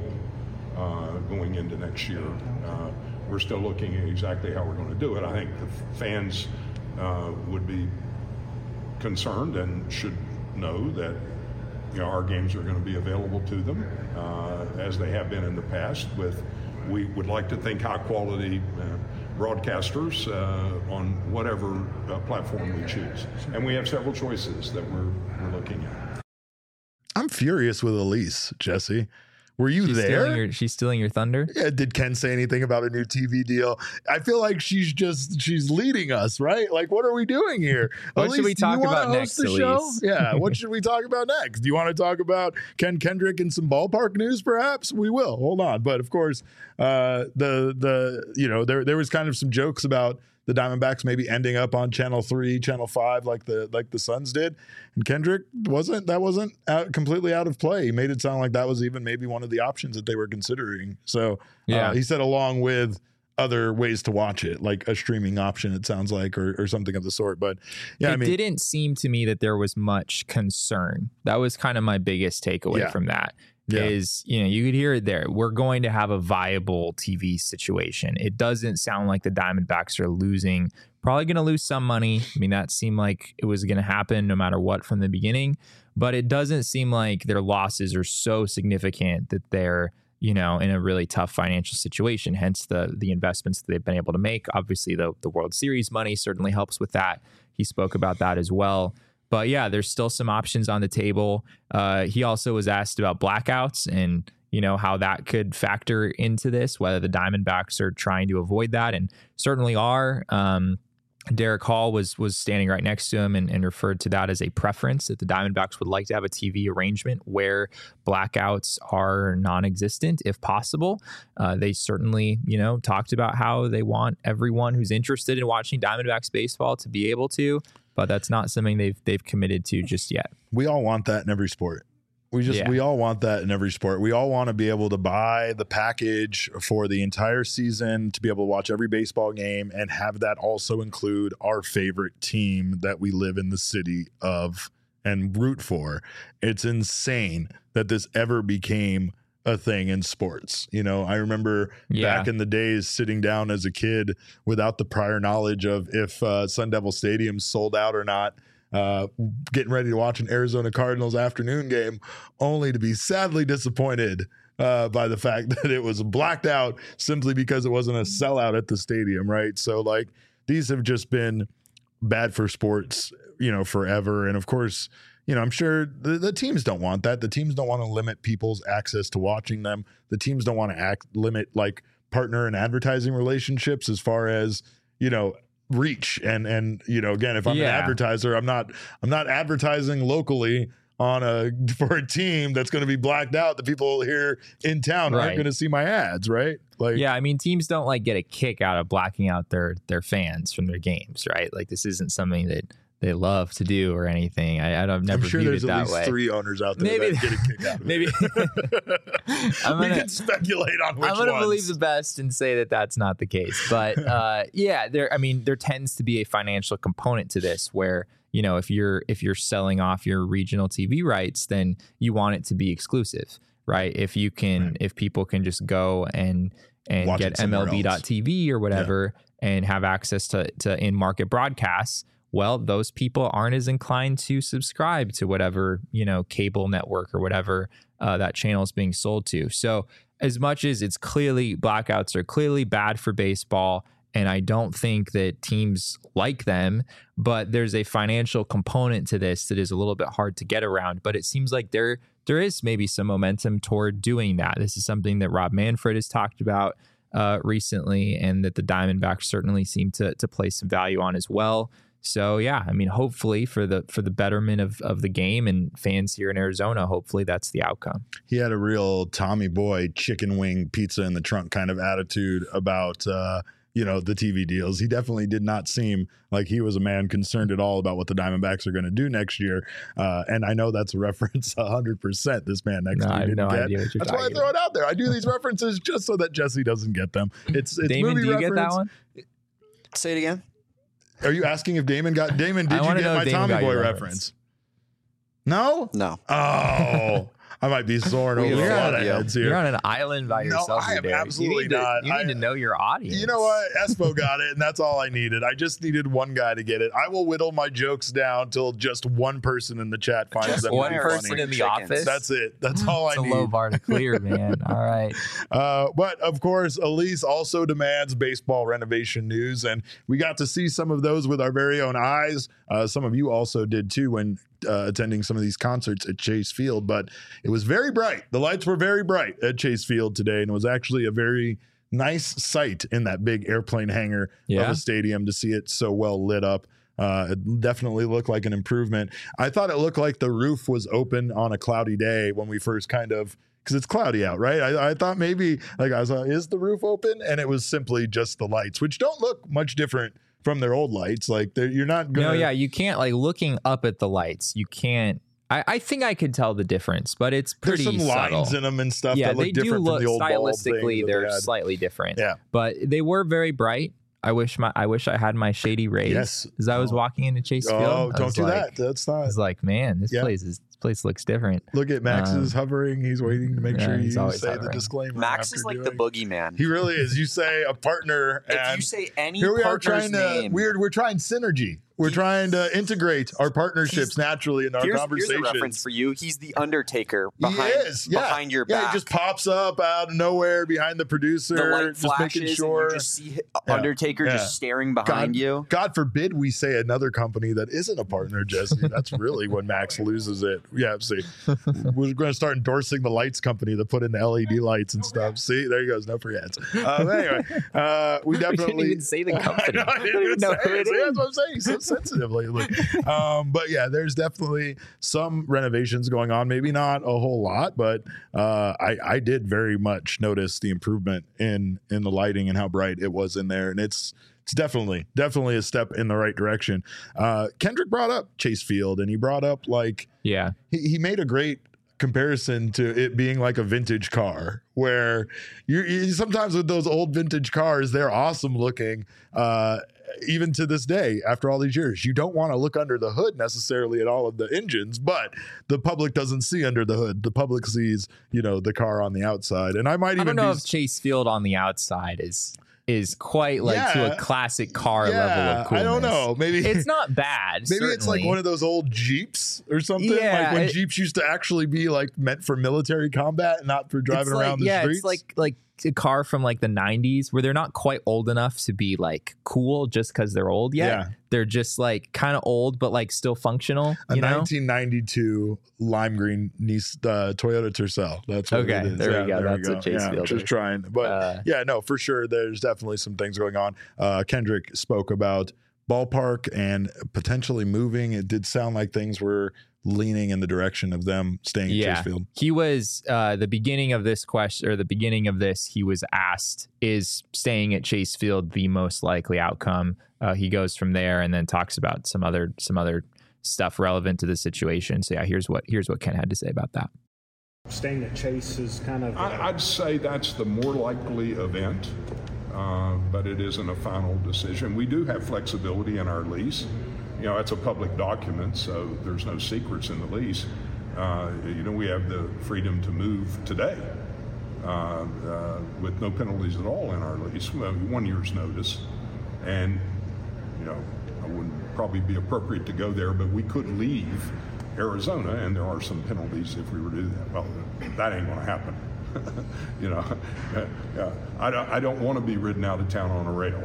uh, going into next year. Uh, we're still looking at exactly how we're going to do it. I think the fans uh, would be concerned and should know that, you know, our games are going to be available to them uh, as they have been in the past. With, we would like to think, high quality uh, broadcasters uh, on whatever uh, platform we choose, and we have several choices that we're we're looking at. I'm furious with Elise, Jesse. Were you she's there? Stealing your, she's stealing your thunder. Yeah, did Ken say anything about a new T V deal? I feel like she's just she's leading us, right? Like, what are we doing here? What Elise, should we do you talk wanna about host next, the show? Elise? Yeah, what should we talk about next? Do you want to talk about Ken Kendrick and some ballpark news? Perhaps we will. Hold on, but of course, uh, the the you know there there was kind of some jokes about the Diamondbacks maybe ending up on Channel Three, Channel Five, like the like the Suns did, and Kendrick wasn't that wasn't out, completely out of play. He made it sound like that was even maybe one of the options that they were considering. So Yeah. uh, he said, along with other ways to watch it, like a streaming option, it sounds like, or, or something of the sort. But yeah, it I mean, didn't seem to me that there was much concern. That was kind of my biggest takeaway Yeah. from that. Yeah. Is, you know, you could hear it there. We're going to have a viable T V situation. It doesn't sound like the Diamondbacks are losing, probably going to lose some money. I mean, that seemed like it was going to happen no matter what from the beginning, but it doesn't seem like their losses are so significant that they're, you know, in a really tough financial situation. Hence the the investments that they've been able to make. Obviously, the the World Series money certainly helps with that. He spoke about that as well. But yeah, there's still some options on the table. Uh, he also was asked about blackouts and, you know, how that could factor into this, whether the Diamondbacks are trying to avoid that, and certainly are. Um, Derek Hall was was standing right next to him and, and referred to that as a preference, that the Diamondbacks would like to have a T V arrangement where blackouts are non-existent if possible. Uh, they certainly, you know, talked about how they want everyone who's interested in watching Diamondbacks baseball to be able to, but that's not something they've they've committed to just yet. we all want that in every sport. We just Yeah. we all want that in every sport. We all want to be able to buy the package for the entire season, to be able to watch every baseball game and have that also include our favorite team that we live in the city of and root for. It's insane that this ever became a thing in sports. You know, I remember Yeah. back in the days sitting down as a kid without the prior knowledge of if uh, Sun Devil Stadium sold out or not, uh, getting ready to watch an Arizona Cardinals afternoon game, only to be sadly disappointed uh, by the fact that it was blacked out simply because it wasn't a sellout at the stadium, right? So, like, these have just been bad for sports, you know, forever. And of course, you know, I'm sure the, the teams don't want that. The teams don't want to limit people's access to watching them. The teams don't want to act limit like partner and advertising relationships as far as, you know, reach. And, and, you know, again, if I'm Yeah. an advertiser, I'm not, I'm not advertising locally on a, for a team that's going to be blacked out. The people here in town aren't Right. going to see my ads, right? Like, Yeah, I mean, teams don't like get a kick out of blacking out their their fans from their games, right? Like, this isn't something that they love to do or anything. I, I've never I'm sure viewed there's it at that least way. three owners out there Maybe- that get a kick out of it. Maybe I'm we gonna- can speculate on which I'm going to ones. believe the best and say that that's not the case. But uh, yeah, there. I mean, there tends to be a financial component to this, where, you know, if you're if you're selling off your regional T V rights, then you want it to be exclusive, right? If you can, Right. if people can just go and and Watch it get somewhere M L B dot T V or whatever and have access to to in market broadcasts, well, those people aren't as inclined to subscribe to whatever, you know, cable network or whatever uh, that channel is being sold to. So as much as it's clearly, blackouts are clearly bad for baseball, and I don't think that teams like them, but there's a financial component to this that is a little bit hard to get around. But it seems like there there is maybe some momentum toward doing that. This is something that Rob Manfred has talked about uh, recently, and that the Diamondbacks certainly seem to to place some value on as well. So yeah, I mean, hopefully for the for the betterment of, of the game and fans here in Arizona, hopefully that's the outcome. He had a real Tommy Boy chicken wing pizza in the trunk kind of attitude about, uh, you know, the T V deals. He definitely did not seem like he was a man concerned at all about what the Diamondbacks are going to do next year. Uh, and I know that's a reference one hundred percent this man next No, to I me have didn't no get. idea what you're That's why I talking throw it out there. I do these references just so that Jesse doesn't get them. It's, it's Damon, movie do you get that reference. one? Say it again. Are you asking if Damon got Damon? I Did you wanna get know if my Damon Tommy got Boy your reference? reference. No. No. Oh, I might be soaring We over a have lot of audio. heads here. You're on an island by No, yourself. I here, am Derek. absolutely you need not. To, you need I- to know your audience. You know what? Espo got it, and that's all I needed. I just needed one guy to get it. I will whittle my jokes down till just one person in the chat finds Just them. One to be person funny. in the Chickens. office. That's it. That's all It's I a need. low bar to clear, man. All right. Uh, but of course, Elise also demands baseball renovation news, and we got to see some of those with our very own eyes. Uh, some of you also did too when uh, attending some of these concerts at Chase Field. But it was very bright. The lights were very bright at Chase Field today, and it was actually a very nice sight in that big airplane hangar of Yeah. a stadium to see it so well lit up. Uh, it definitely looked like an improvement. I thought it looked like the roof was open on a cloudy day when we first kind of, because it's cloudy out, right? I, I thought maybe, like, I was like, is the roof open? And it was simply just the lights, which don't look much different from their old lights. Like, they're- you're not going No, to. yeah, you can't, like, looking up at the lights, you can't I, I think I could tell the difference, but it's pretty There's some subtle. lines in them and stuff Yeah, that look they do different look from the old bulb stylistically. thing that They're they had. slightly different. Yeah. but they were very bright. I wish my I wish I had my shady rays. Yes. As I was Oh. walking into Chase Field. Oh, I don't was do like, that. That's I not. was like, man, this Yeah. place is this place looks different. Look at Max Um, is hovering. He's waiting to make yeah, sure he's you always say the hovering. disclaimer. Max after is like doing the it. boogeyman. He really is. You say a partner, If and you say any here we are partner's trying to name, weird. We're trying synergy. We're He's- trying to integrate our partnerships he's- naturally in our here's, here's conversations. a reference for you. He's the Undertaker He behind, is, yeah. behind your yeah, back. he just pops up out of nowhere behind the producer, the light just flashes, making sure. and you just see Yeah. Undertaker Yeah. just staring behind God, you. God forbid we say another company that isn't a partner, Jesse. That's really when Max loses it. Yeah, see, we're going to start endorsing the lights company that put in the L E D lights and stuff. See, there he goes. No free ads. Uh, but anyway, uh, we We definitely didn't even say the company. I, know, I didn't even know say who it. it See, is. that's what I'm saying. So sensitive lately. Um, but yeah, there's definitely some renovations going on. Maybe not a whole lot, but uh, I, I did very much notice the improvement in in the lighting and how bright it was in there, and it's it's definitely definitely a step in the right direction. Uh, Kendrick brought up Chase Field, and he brought up like Yeah. he, he made a great comparison to it being like a vintage car where you, you sometimes with those old vintage cars, they're awesome looking. Uh, even to this day, after all these years, you don't want to look under the hood necessarily at all of the engines, but the public doesn't see under the hood. The public sees, you know, the car on the outside. And I might I even don't know be if Chase Field on the outside is is quite like to Yeah. a classic car yeah, level of coolness. I don't know. Maybe It's not bad. Maybe it's like certainly. one of those old Jeeps or something. Yeah, like when it- Jeeps used to actually be like meant for military combat and not for driving It's like- around the yeah, streets. it's like like a car from like the nineties where they're not quite old enough to be like cool just because they're old yet. Yeah. They're just like kind of old but like still functional. a You know? nineteen ninety-two lime green Nice, uh, Toyota Tercel. That's what Okay, it is. there we Yeah, go. That's what Chase yeah, Field just is. trying, but Uh, yeah, no, for sure. There's definitely some things going on. Uh, Kendrick spoke about ballpark and potentially moving. It did sound like things were leaning in the direction of them staying at Yeah. Chase Field. He was uh, the beginning of this question or the beginning of this. He was asked, "Is staying at Chase Field the most likely outcome?" Uh, he goes from there and then talks about some other some other stuff relevant to the situation. So yeah, here's what here's what Ken had to say about that. Staying at Chase is kind of. I, I'd say that's the more likely event, uh, but it isn't a final decision. We do have flexibility in our lease. You know, it's a public document, so there's no secrets in the lease. Uh, you know, we have the freedom to move today uh, uh, with no penalties at all in our lease, well, one year's notice. And, you know, I wouldn't probably be appropriate to go there, but we could leave Arizona, and there are some penalties if we were to do that. Well, that ain't going to happen. you know, uh, yeah, I don't, I don't want to be ridden out of town on a rail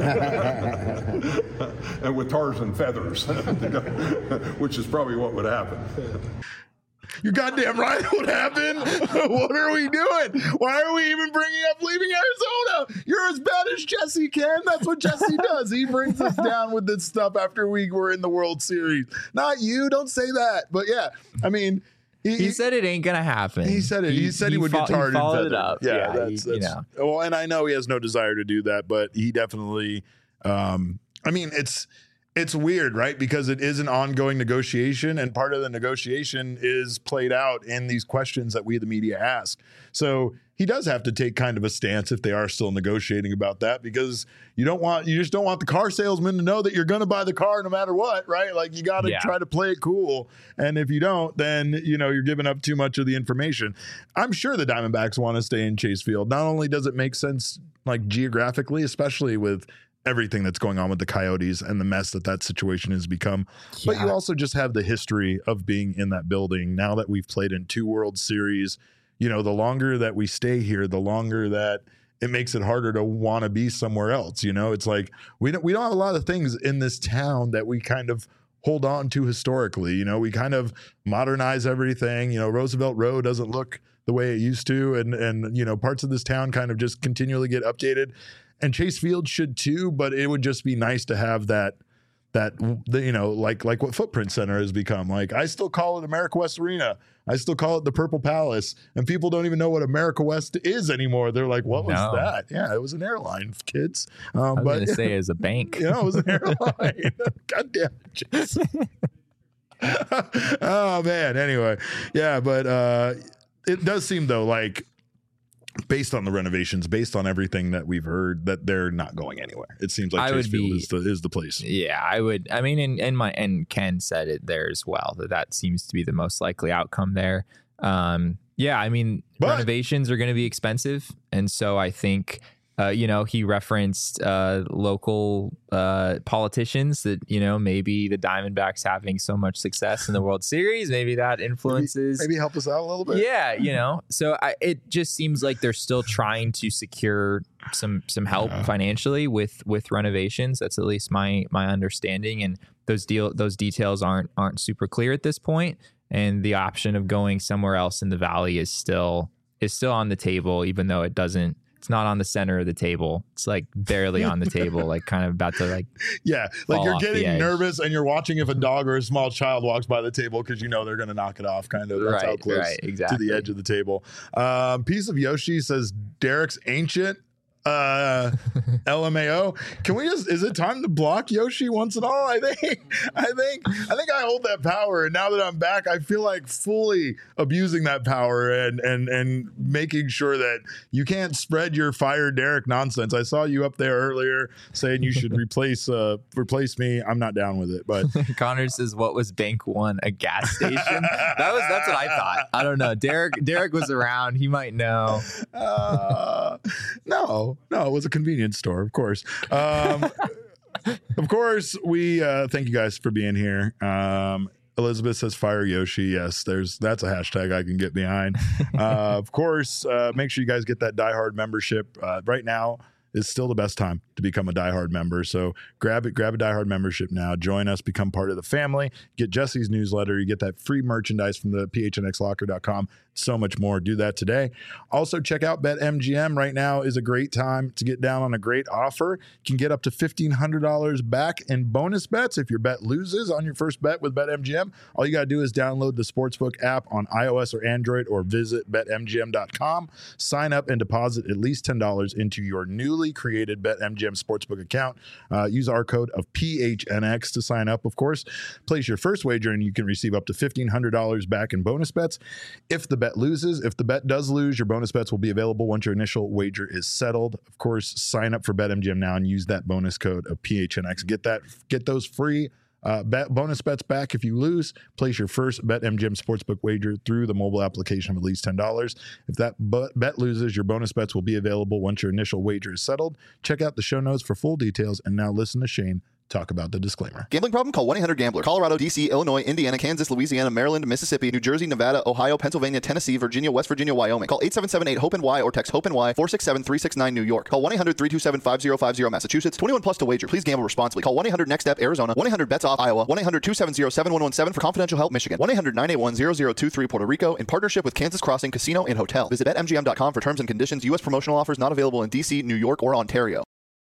and with tars and feathers, which is probably what would happen. You're goddamn right. What happened? What are we doing? Why are we even bringing up leaving Arizona? You're as bad as Jesse, Ken. That's what Jesse does. He brings us down with this stuff after we were in the World Series. Not you. Don't say that. But yeah, I mean, he, He said it ain't gonna happen. He said it. He, said he, would fo- get tarred and followed feathered. it up. Yeah, Yeah, that's, he- you that's know. well, and I know he has no desire to do that, but he definitely. Um, I mean, it's it's weird, right? Because it is an ongoing negotiation, and part of the negotiation is played out in these questions that we, the media, ask. So he does have to take kind of a stance if they are still negotiating about that, because you don't want you just don't want the car salesman to know that you're going to buy the car no matter what, right? Like you got to Yeah. try to play it cool, and if you don't, then you know you're giving up too much of the information. I'm sure the Diamondbacks want to stay in Chase Field. Not only does it make sense like geographically, especially with everything that's going on with the Coyotes and the mess that that situation has become. But you Yeah. also just have the history of being in that building. Now that we've played in two World Series, you know, the longer that we stay here, the longer that it makes it harder to want to be somewhere else. You know, it's like we don't we don't have a lot of things in this town that we kind of hold on to historically. You know, we kind of modernize everything. You know, Roosevelt Road doesn't look the way it used to, and and you know, parts of this town kind of just continually get updated. And Chase Field should too, but it would just be nice to have that, that the, you know, like like what Footprint Center has become. Like I still call it America West Arena. I still call it the Purple Palace, and people don't even know what America West is anymore. They're like, "What was No. that?" Yeah, it was an airline, kids. Um, I was but gonna say as a bank. you know, it was an airline. God damn it, Chase. Oh man. Anyway, yeah, but uh, it does seem though like based on the renovations, based on everything that we've heard, that they're not going anywhere. It seems like I Chase would Field be- is the is the place. Yeah, I would. I mean, and, and my and Ken said it there as well that that seems to be the most likely outcome there. Um, yeah, I mean, But- renovations are going to be expensive, and so I think. Uh, you know, he referenced uh, local uh, politicians that, you know, maybe the Diamondbacks having so much success in the World Series, maybe that influences. Maybe help us out a little bit. Yeah, you know, so I, it just seems like they're still trying to secure some some help Yeah. financially with with renovations. That's at least my my understanding, and those deal those details aren't aren't super clear at this point. And the option of going somewhere else in the valley is still is still on the table, even though it doesn't. It's not on the center of the table. It's like barely on the table, like kind of about to like. Yeah, like fall you're off the getting edge. nervous and you're watching if a dog or a small child walks by the table because you know they're going to knock it off. Kind of. That's how Right, close right, to exactly. the edge of the table. Um, piece of Yoshi says Derek's ancient. Uh, L M A O. Can we just? Is it time to block Yoshi once and all? I think. I think. I think I hold that power, and now that I'm back, I feel like fully abusing that power and and and making sure that you can't spread your fire Derek nonsense. I saw you up there earlier saying you should replace uh replace me. I'm not down with it, but Connor says, "What was Bank One? A gas station?" That was that's what I thought. I don't know. Derek Derek was around. He might know. uh, no, no, it was a convenience store, of course. Um, of course, we uh, thank you guys for being here. Um, Elizabeth says fire Yoshi. Yes, there's that's a hashtag I can get behind. Uh, of course, uh, make sure you guys get that Die Hard membership. Uh, right now is still the best time to become a Die Hard member. So grab it, grab a Die Hard membership now. Join us, become part of the family. Get Jesse's newsletter. You get that free merchandise from the P H N X locker dot com. So much more. Do that today. Also, check out BetMGM. Right now is a great time to get down on a great offer. You can get up to fifteen hundred dollars back in bonus bets if your bet loses on your first bet with BetMGM. All you got to do is download the Sportsbook app on iOS or Android or visit Bet M G M dot com. Sign up and deposit at least ten dollars into your newly created BetMGM Sportsbook account. Uh, use our code of P H N X to sign up, of course. Place your first wager and you can receive up to fifteen hundred dollars back in bonus bets. If the bet loses, if the bet does lose, your bonus bets will be available once your initial wager is settled. Of course, sign up for BetMGM now and use that bonus code of P H N X. Get that, get those free uh, bet bonus bets back if you lose. Place your first BetMGM Sportsbook wager through the mobile application of at least ten dollars. If that bet loses, your bonus bets will be available once your initial wager is settled. Check out the show notes for full details. And now listen to Shane talk about the disclaimer. Gambling problem? Call one eight hundred gambler. Colorado, D C, Illinois, Indiana, Kansas, Louisiana, Maryland, Mississippi, New Jersey, Nevada, Ohio, Pennsylvania, Tennessee, Virginia, West Virginia, Wyoming. Call eight seven seven eight hope N Y or text HOPE-NY four six seven three six nine New York. Call one eight hundred three two seven five zero five zero Massachusetts. twenty-one plus to wager. Please gamble responsibly. Call one eight hundred next step Arizona. one eight hundred bets off Iowa. one eight hundred two seven zero seven one one seven for confidential help Michigan. one eight hundred nine eight one zero zero two three Puerto Rico in partnership with Kansas Crossing Casino and Hotel. Visit Bet M G M dot com for terms and conditions. U S promotional offers not available in D C, New York, or Ontario.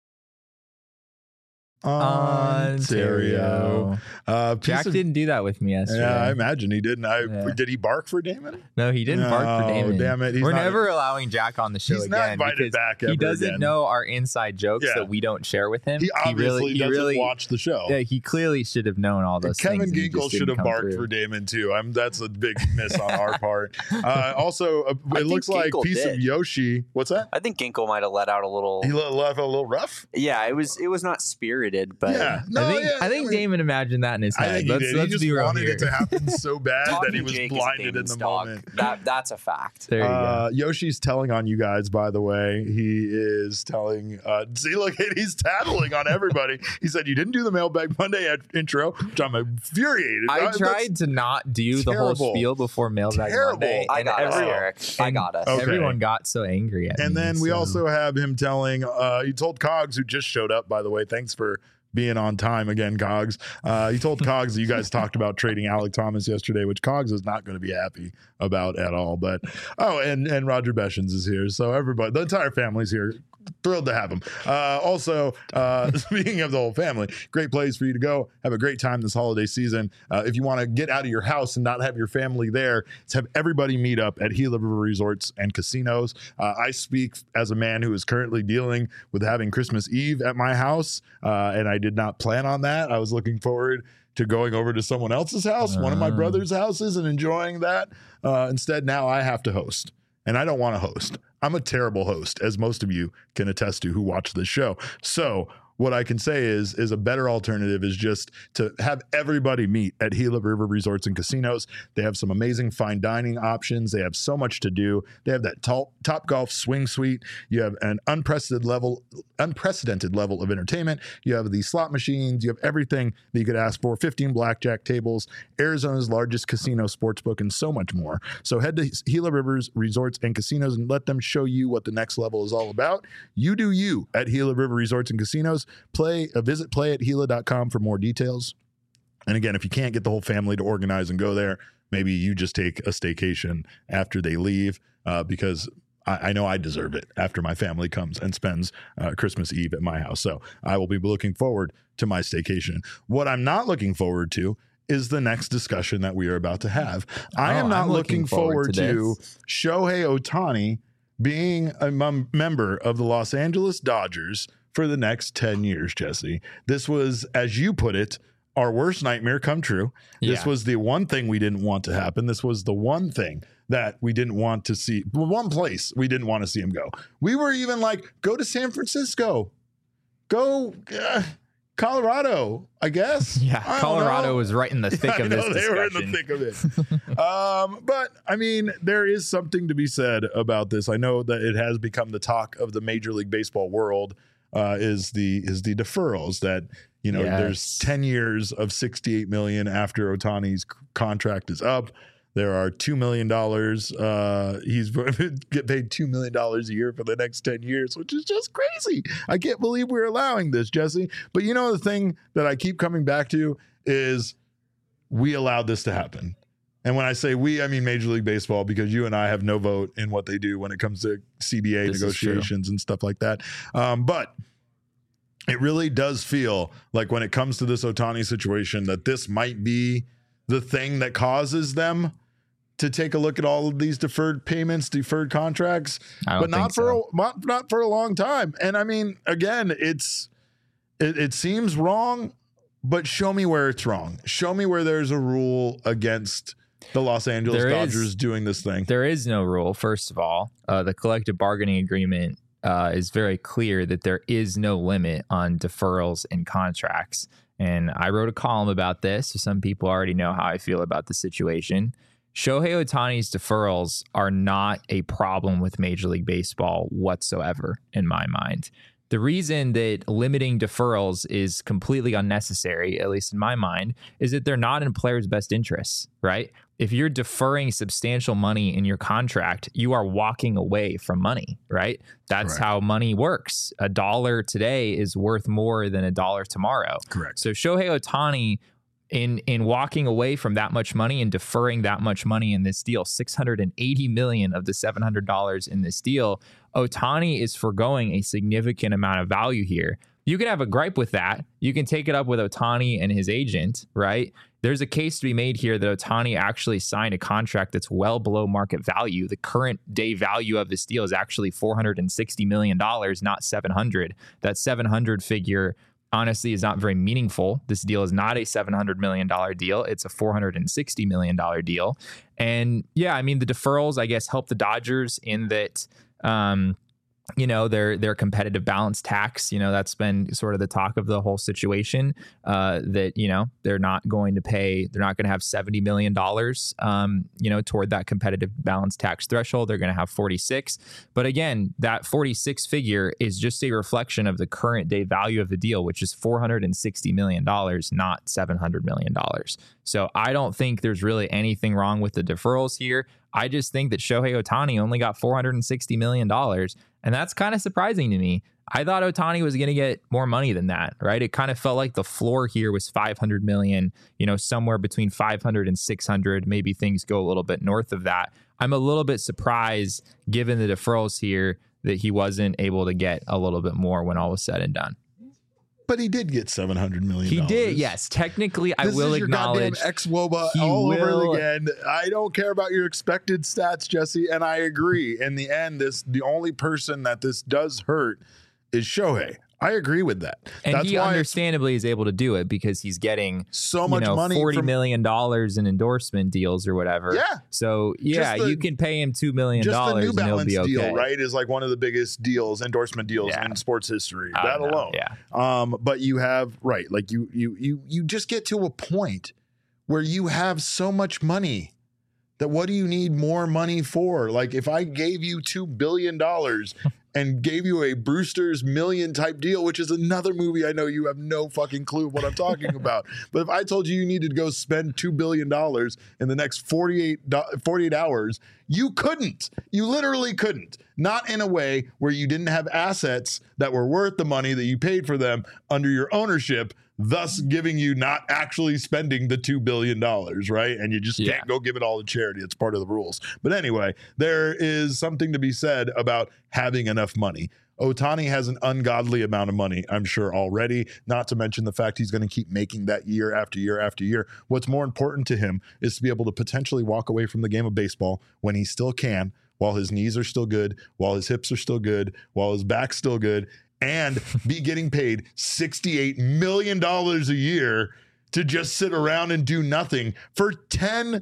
Ontario. Uh, piece Jack of- didn't do that with me yesterday. Yeah, I imagine he didn't. I Yeah. did he bark for Damon? No, he didn't bark for No, Damon. damn it, he's We're not- never allowing Jack on the show He's again not invited because back he ever doesn't again. know our inside jokes Yeah. that we don't share with him. He obviously really, he doesn't really, watch the show. Yeah, he clearly should have known all those Kevin things. and he Ginkle just should didn't have come barked through. for Damon too. I'm that's a big miss on our part. Uh, also, uh, I it think looks like Ginkle piece of did. Yoshi. What's that? I think Ginkle might have let out a little. He let left a little rough. Yeah, it was it was not spirited, but yeah, no, I think yeah, I think mean, Damon imagined that in his I head. think he let's did. let's He just be real wanted here. it to happen so bad that he Talking was Jake is blinded in Damon's the dog. moment. That that's a fact. There you Uh, go. Yoshi's telling on you guys, by the way. He is telling, uh, see, look, he's tattling on everybody. He said, you didn't do the Mailbag Monday ad- intro, which I'm infuriated. I Uh, that's tried to not do the whole terrible. spiel before Mailbag Terrible. Monday. I and got us, every- Eric. I and got us. Okay. Everyone got so angry at And me. then we so- also have him telling, uh, he told Cogs, who just showed up, by the way, thanks for being on time again, Cogs. Uh, he told Cogs that you guys talked about trading Alec Thomas yesterday, which Cogs is not going to be happy about at all. But, oh, and, and Roger Beshens is here. So everybody, the entire family's here. thrilled to have him. Uh, also, uh, speaking of the whole family, great place for you to go. Have a great time this holiday season. Uh, if you want to get out of your house and not have your family there, let's have everybody meet up at Gila River Resorts and Casinos. Uh, I speak as a man who is currently dealing with having Christmas Eve at my house, uh, and I did not plan on that. I was looking forward to going over to someone else's house, uh. one of my brother's houses, and enjoying that. Uh, instead, now I have to host, and I don't want to host. I'm a terrible host, as most of you can attest to who watch this show. So what I can say is, is a better alternative is just to have everybody meet at Gila River Resorts and Casinos. They have some amazing fine dining options. They have so much to do. They have that top, top golf swing suite. You have an unprecedented level, unprecedented level of entertainment. You have the slot machines. You have everything that you could ask for. fifteen blackjack tables, Arizona's largest casino sportsbook, and so much more. So head to Gila Rivers Resorts and Casinos and let them show you what the next level is all about. You do you at Gila River Resorts and Casinos. Play a visit play at Gila dot com for more details. And again, if you can't get the whole family to organize and go there, maybe you just take a staycation after they leave, uh, because I, I know I deserve it after my family comes and spends uh, Christmas Eve at my house. So I will be looking forward to my staycation. What I'm not looking forward to is the next discussion that we are about to have. I oh, am not I'm looking, looking forward, forward to, to Shohei Ohtani being a mem- member of the Los Angeles Dodgers for the next ten years, Jesse. This was, as you put it, our worst nightmare come true. This yeah. was the one thing we didn't want to happen. This was the one thing that we didn't want to see. One place we didn't want to see him go. We were even like, go to San Francisco. Go uh, Colorado, I guess. Yeah, I Colorado was right in the thick of this they discussion. were in the thick of it. um, but, I mean, there is something to be said about this. I know that it has become the talk of the Major League Baseball world. Uh, is the is the deferrals that, you know, yes. there's ten years of sixty-eight million after Ohtani's contract is up. There are two million dollars. Uh, he's get paid two million dollars a year for the next ten years, which is just crazy. I can't believe we're allowing this, Jesse. But you know, the thing that I keep coming back to is we allowed this to happen. And when I say we, I mean Major League Baseball, because you and I have no vote in what they do when it comes to C B A this negotiations and stuff like that. Um, but it really does feel like when it comes to this Ohtani situation that this might be the thing that causes them to take a look at all of these deferred payments, deferred contracts, but not for so. a, not, not for a long time. And I mean, again, it's it, it seems wrong, but show me where it's wrong. Show me where there's a rule against the Los Angeles there Dodgers is, doing this thing. There is no rule. First of all, uh, the collective bargaining agreement uh, is very clear that there is no limit on deferrals and contracts. And I wrote a column about this, so some people already know how I feel about the situation. Shohei Ohtani's deferrals are not a problem with Major League Baseball whatsoever, in my mind. The reason that limiting deferrals is completely unnecessary, at least in my mind, is that they're not in players' best interests, right? If you're deferring substantial money in your contract, you are walking away from money, right? That's Correct. How money works. A dollar today is worth more than a dollar tomorrow. Correct. So Shohei Ohtani, in in walking away from that much money and deferring that much money in this deal, six hundred eighty million dollars of the seven hundred dollars in this deal, Ohtani is foregoing a significant amount of value here. You can have a gripe with that. You can take it up with Ohtani and his agent, right? There's a case to be made here that Ohtani actually signed a contract that's well below market value. The current day value of this deal is actually four hundred sixty million dollars, not seven hundred. That seven hundred figure honestly is not very meaningful. This deal is not a seven hundred million dollars deal. It's a four hundred sixty million dollars deal. And yeah, I mean, the deferrals, I guess, help the Dodgers in that, um, you know, their their competitive balance tax, you know, that's been sort of the talk of the whole situation, uh, that, you know, they're not going to pay, they're not going to have seventy million dollars, um, you know, toward that competitive balance tax threshold. They're going to have forty-six. But again, that forty-six figure is just a reflection of the current day value of the deal, which is four hundred sixty million dollars, not seven hundred million dollars. So I don't think there's really anything wrong with the deferrals here. I just think that Shohei Ohtani only got four hundred sixty million dollars. And that's kind of surprising to me. I thought Ohtani was going to get more money than that, right? It kind of felt like the floor here was five hundred million, you know, somewhere between five hundred and six hundred. Maybe things go a little bit north of that. I'm a little bit surprised, given the deferrals here, that he wasn't able to get a little bit more when all was said and done. But he did get seven hundred million dollars. He did, yes. Technically, I this will is your acknowledge. Goddamn ex-Woba he all will, over again. I don't care about your expected stats, Jesse, and I agree. In the end, this the only person that this does hurt is Shohei. I agree with that. And That's he why understandably is able to do it because he's getting so you much know, money forty from, million dollars in endorsement deals or whatever. Yeah. So yeah, the, you can pay him two million just dollars the New and he'll Balance be okay. deal, right? Is like one of the biggest deals, endorsement deals Yeah. in sports history. I That don't know, alone. yeah. Um, but you have right, like you you you you just get to a point where you have so much money that what do you need more money for? Like if I gave you two billion dollars and gave you a Brewster's Million type deal, which is another movie I know you have no fucking clue what I'm talking about. But if I told you you needed to go spend two billion dollars in the next forty-eight, forty-eight hours, you couldn't. You literally couldn't. Not in a way where you didn't have assets that were worth the money that you paid for them under your ownership, thus giving you not actually spending the two billion dollars, right? And you just Yeah. can't go give it all to charity. It's part of the rules. But anyway, there is something to be said about having enough money. Ohtani has an ungodly amount of money, I'm sure, already, not to mention the fact he's going to keep making that year after year after year. What's more important to him is to be able to potentially walk away from the game of baseball when he still can, while his knees are still good, while his hips are still good, while his back's still good, and be getting paid sixty-eight million dollars a year to just sit around and do nothing for ten,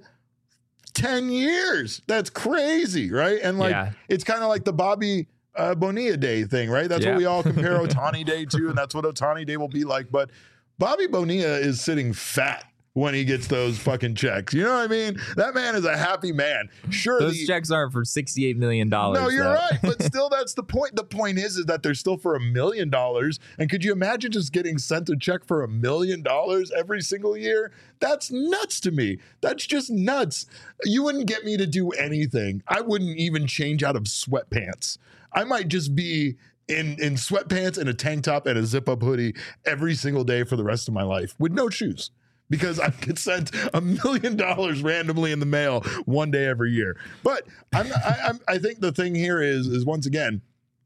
ten years. That's crazy, right? And like, Yeah. it's kind of like the Bobby uh, Bonilla Day thing, right? That's Yeah. what we all compare Ohtani Day to, and that's what Ohtani Day will be like. But Bobby Bonilla is sitting fat when he gets those fucking checks. You know what I mean? That man is a happy man. Sure, Those the, checks aren't for sixty-eight million dollars. no, you're though. right. But still, that's the point. The point is, is that they're still for a million dollars. And could you imagine just getting sent a check for a million dollars every single year? That's nuts to me. That's just nuts. You wouldn't get me to do anything. I wouldn't even change out of sweatpants. I might just be in, in sweatpants and a tank top and a zip up hoodie every single day for the rest of my life with no shoes. Because I get sent a million dollars randomly in the mail one day every year. But I'm, I, I'm, I think the thing here is, is once again,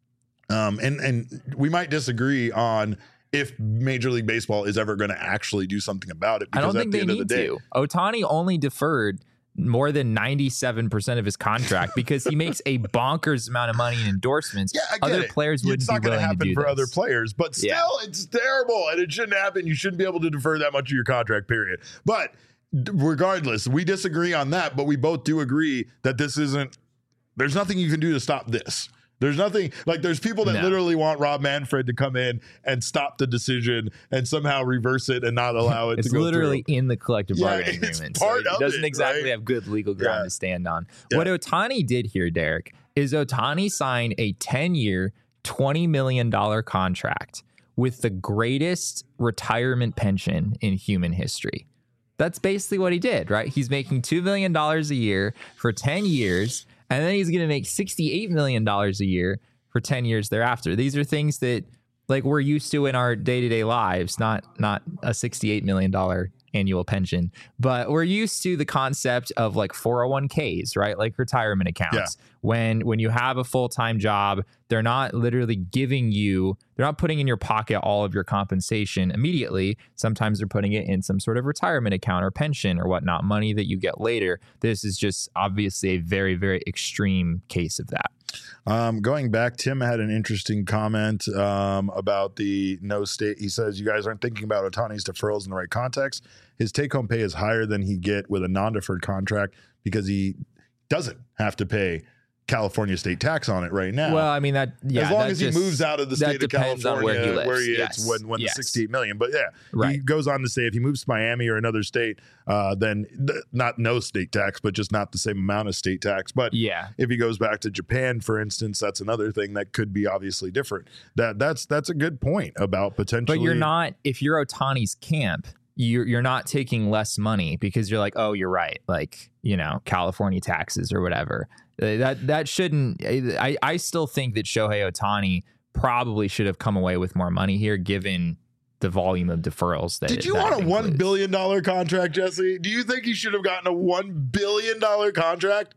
um, and and we might disagree on if Major League Baseball is ever going to actually do something about it. I Because don't at think the they end of need the day, to. Ohtani only deferred more than ninety-seven percent of his contract because he makes a bonkers amount of money in endorsements. yeah, I get Other it. players It's wouldn't not be going to willing to happen do for this. other players, but still, Yeah. it's terrible and it shouldn't happen. You shouldn't be able to defer that much of your contract period. But regardless, we disagree on that, but we both do agree that this isn't, there's nothing you can do to stop this. There's nothing, like there's people that No. literally want Rob Manfred to come in and stop the decision and somehow reverse it and not allow it It's to go literally through. in the collective Yeah, bargaining it's agreement. part so of he doesn't it, exactly right? have good legal ground Yeah. to stand on. Yeah. What Ohtani did here, Derek, is Ohtani signed a ten-year, twenty million dollars contract with the greatest retirement pension in human history. That's basically what he did, right? He's making two million dollars a year for ten years, and then he's going to make sixty-eight million dollars a year for ten years thereafter. These are things that like we're used to in our day-to-day lives, not not a sixty-eight million dollars annual pension, but we're used to the concept of like four oh one k's, right? Like retirement accounts. Yeah. When when you have a full-time job, they're not literally giving you, they're not putting in your pocket all of your compensation immediately. Sometimes they're putting it in some sort of retirement account or pension or whatnot, money that you get later. This is just obviously a very, very extreme case of that. Um, going back, Tim had an interesting comment um, about the no state. He says, you guys aren't thinking about Ohtani's deferrals in the right context. His take-home pay is higher than he get with a non-deferred contract because he doesn't have to pay California state tax on it right now. Well, I mean, that, yeah. as long that as just- he moves out of the that state of depends California, on where he lives. where he Yes. it's when, when Yes. the sixty-eight million. But yeah, he Right. goes on to say if he moves to Miami or another state, uh, then th- not no state tax, but just not the same amount of state tax. But Yeah. if he goes back to Japan, for instance, that's another thing that could be obviously different. That that's that's a good point about potentially. But you're not, if you're Ohtani's camp, you're you're not taking less money because you're like, oh, you're right, like, you know, California taxes or whatever. Uh, That that shouldn't. I I still think that Shohei Ohtani probably should have come away with more money here, given the volume of deferrals that. Did you that want a it one includes. billion dollar contract, Jesse? Do you think he should have gotten a one billion dollar contract?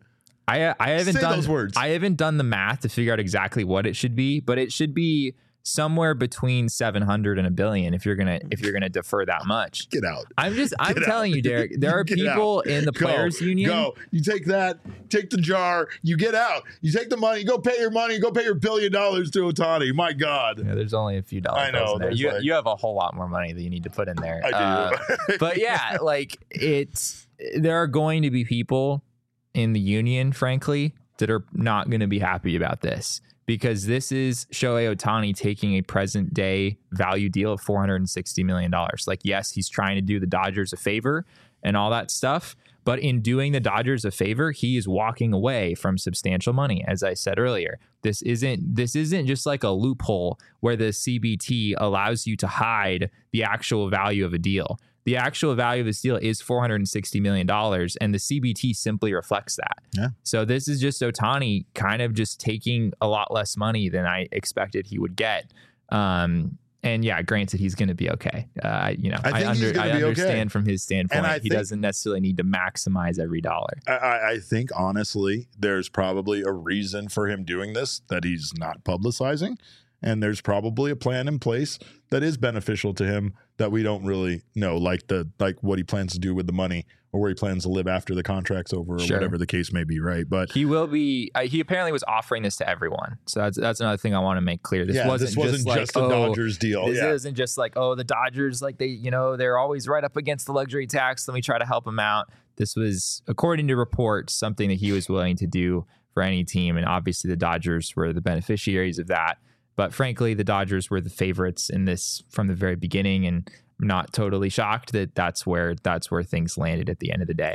I I haven't Say done those words. I haven't done the math to figure out exactly what it should be, but it should be somewhere between seven hundred and a billion if you're gonna if you're gonna defer that much. Get out. I'm just I'm Get telling out. you, Derek. There are Get people out. in the Go. players union. Go. You take that, take the jar, you get out. You take the money, go pay your money, go pay your billion dollars to Otani. My God. Yeah, there's only a few dollars I know, in there. there's You, like- you have a whole lot more money that you need to put in there. I do. Uh, but yeah, like it's there are going to be people in the union, frankly, that are not going to be happy about this because this is Shohei Ohtani taking a present day value deal of four hundred sixty million dollars. Like, yes, he's trying to do the Dodgers a favor and all that stuff. But in doing the Dodgers a favor, he is walking away from substantial money. As I said earlier, this isn't this isn't just like a loophole where the C B T allows you to hide the actual value of a deal. The actual value of this deal is four hundred sixty million dollars, and the C B T simply reflects that. Yeah. So this is just Ohtani kind of just taking a lot less money than I expected he would get. Um, and yeah, granted, he's going to be okay. Uh, you know, I I, think he's under, gonna I be okay. understand from his standpoint, And I he think- doesn't necessarily need to maximize every dollar. I- I, I think honestly, there's probably a reason for him doing this that he's not publicizing. And there's probably a plan in place that is beneficial to him that we don't really know, like the like what he plans to do with the money or where he plans to live after the contract's over or Sure. whatever the case may be, right? But He will be. Uh, he apparently was offering this to everyone. So that's that's another thing I want to make clear. This yeah, wasn't this wasn't just, just, like, a oh, Dodgers deal. This yeah. isn't just like, oh, the Dodgers, like they, you know, they're always right up against the luxury tax. Let me try to help them out. This was, according to reports, something that he was willing to do for any team. And obviously the Dodgers were the beneficiaries of that. But frankly, the Dodgers were the favorites in this from the very beginning. And I'm not totally shocked that that's where that's where things landed at the end of the day.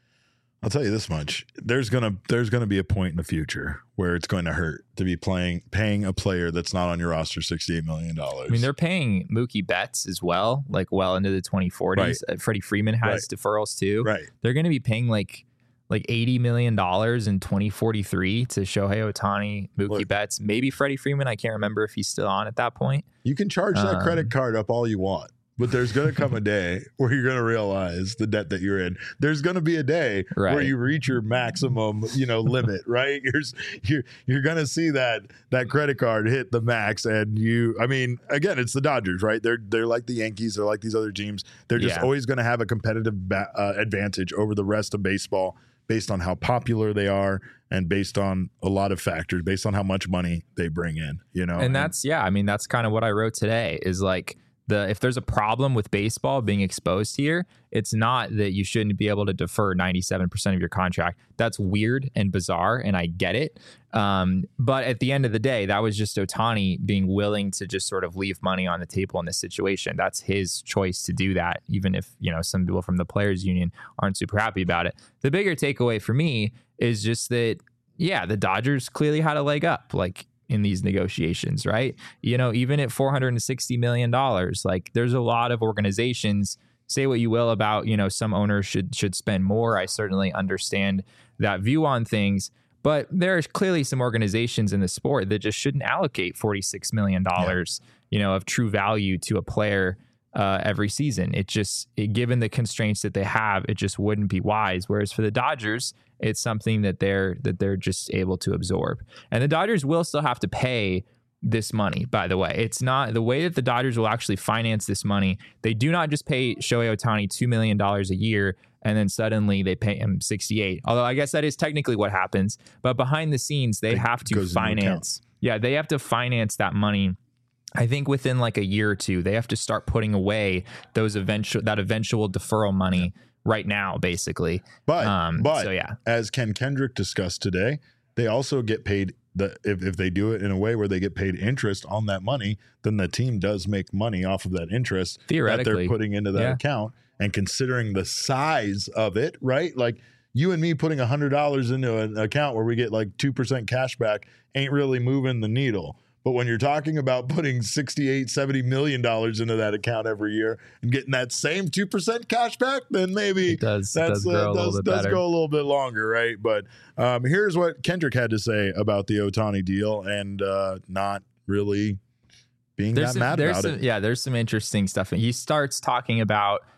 I'll tell you this much: there's gonna there's gonna be a point in the future where it's going to hurt to be playing paying a player that's not on your roster sixty-eight million dollars. I mean, they're paying Mookie Betts as well, like well into the twenty forties. Uh, Freddie Freeman has deferrals too. right. They're going to be paying like like eighty million dollars in twenty forty-three to Shohei Ohtani, Mookie Look. Betts, maybe Freddie Freeman. I can't remember if he's still on at that point. You can charge that Um, credit card up all you want, but there's going to come a day where you're going to realize the debt that you're in. There's going to be a day where Right. you reach your maximum, you know, limit, right? You're you're you're going to see that that credit card hit the max, and you. I mean, again, it's the Dodgers, right? They're they're like the Yankees, they're like these other teams. They're just Yeah. always going to have a competitive ba- uh, advantage over the rest of baseball based on how popular they are and based on a lot of factors, based on how much money they bring in, you know. And that's, yeah, I mean, that's kind of what I wrote today is like, the if there's a problem with baseball being exposed here, it's not that you shouldn't be able to defer ninety-seven percent of your contract. That's weird and bizarre, and I get it. Um, but at the end of the day, that was just Ohtani being willing to just sort of leave money on the table in this situation. That's his choice to do that, even if, you know, some people from the players union aren't super happy about it. The bigger takeaway for me is just that, yeah, the Dodgers clearly had a leg up. Like, in these negotiations, right? You know, even at four hundred sixty million dollars, like there's a lot of organizations, say what you will about, you know, some owners should should spend more. I certainly understand that view on things, but there's clearly some organizations in the sport that just shouldn't allocate forty-six million dollars, yeah. you know, of true value to a player uh, every season. It just, it, given the constraints that they have, it just wouldn't be wise. Whereas for the Dodgers, it's something that they're that they're just able to absorb. And the Dodgers will still have to pay this money, by the way. It's not the way that the Dodgers will actually finance this money. They do not just pay Shohei Ohtani two million dollars a year and then suddenly they pay him sixty-eight. Although I guess that is technically what happens. But behind the scenes, they It have to goes into account. finance. Yeah, they have to finance that money. I think within like a year or two, they have to start putting away those eventual that eventual deferral money right now, basically. But Um, but so yeah. as Ken Kendrick discussed today, they also get paid the if, if they do it in a way where they get paid interest on that money, then the team does make money off of that interest that Theoretically. they're putting into that Yeah. account. And considering the size of it, right? Like you and me putting one hundred dollars into an account where we get like two percent cash back ain't really moving the needle. But when you're talking about putting sixty-eight, seventy million dollars into that account every year and getting that same two percent cash back, then maybe It does- it that's, does grow a little does, bit does better. go a little bit longer, right? But um, here's what Kendrick had to say about the Ohtani deal and uh, not really being There's that some, mad there's about some, it. Yeah, there's some interesting stuff. He starts talking about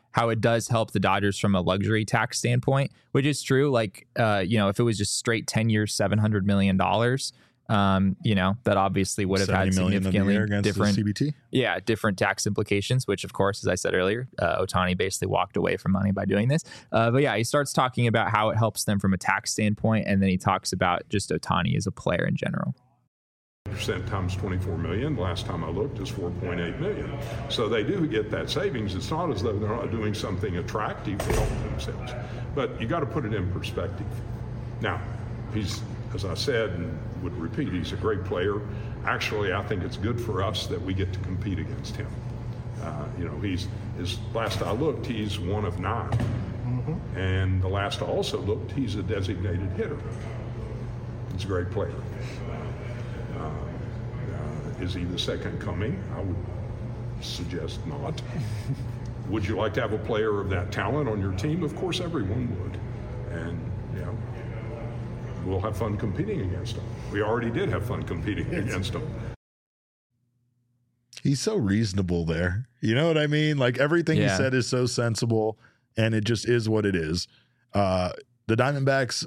how it does help the Dodgers from a luxury tax standpoint, which is true. Like, uh, you know, if it was just straight ten years, seven hundred million dollars, um, you know, that obviously would have had significantly different, C B T. yeah, different tax implications, which of course, as I said earlier, uh, Ohtani basically walked away from money by doing this. Uh, but yeah, he starts talking about how it helps them from a tax standpoint. And then he talks about just Ohtani as a player in general. Percent times twenty-four million. Last time I looked is four point eight million. So they do get that savings. It's not as though they're not doing something attractive to help themselves, but you got to put it in perspective. Now, he's, as I said and would repeat, he's a great player. Actually, I think it's good for us that we get to compete against him. Uh, you know, he's, his last I looked, he's one of nine. Mm-hmm. And the last I also looked, he's a designated hitter. He's a great player. Uh, uh, is he the second coming? I would suggest not. Would you like to have a player of that talent on your team? Of course, everyone would. And, you know, we'll have fun competing against him. We already did have fun competing against him. He's so reasonable there. You know what I mean? Like everything Yeah. he said is so sensible, and it just is what it is. Uh, the Diamondbacks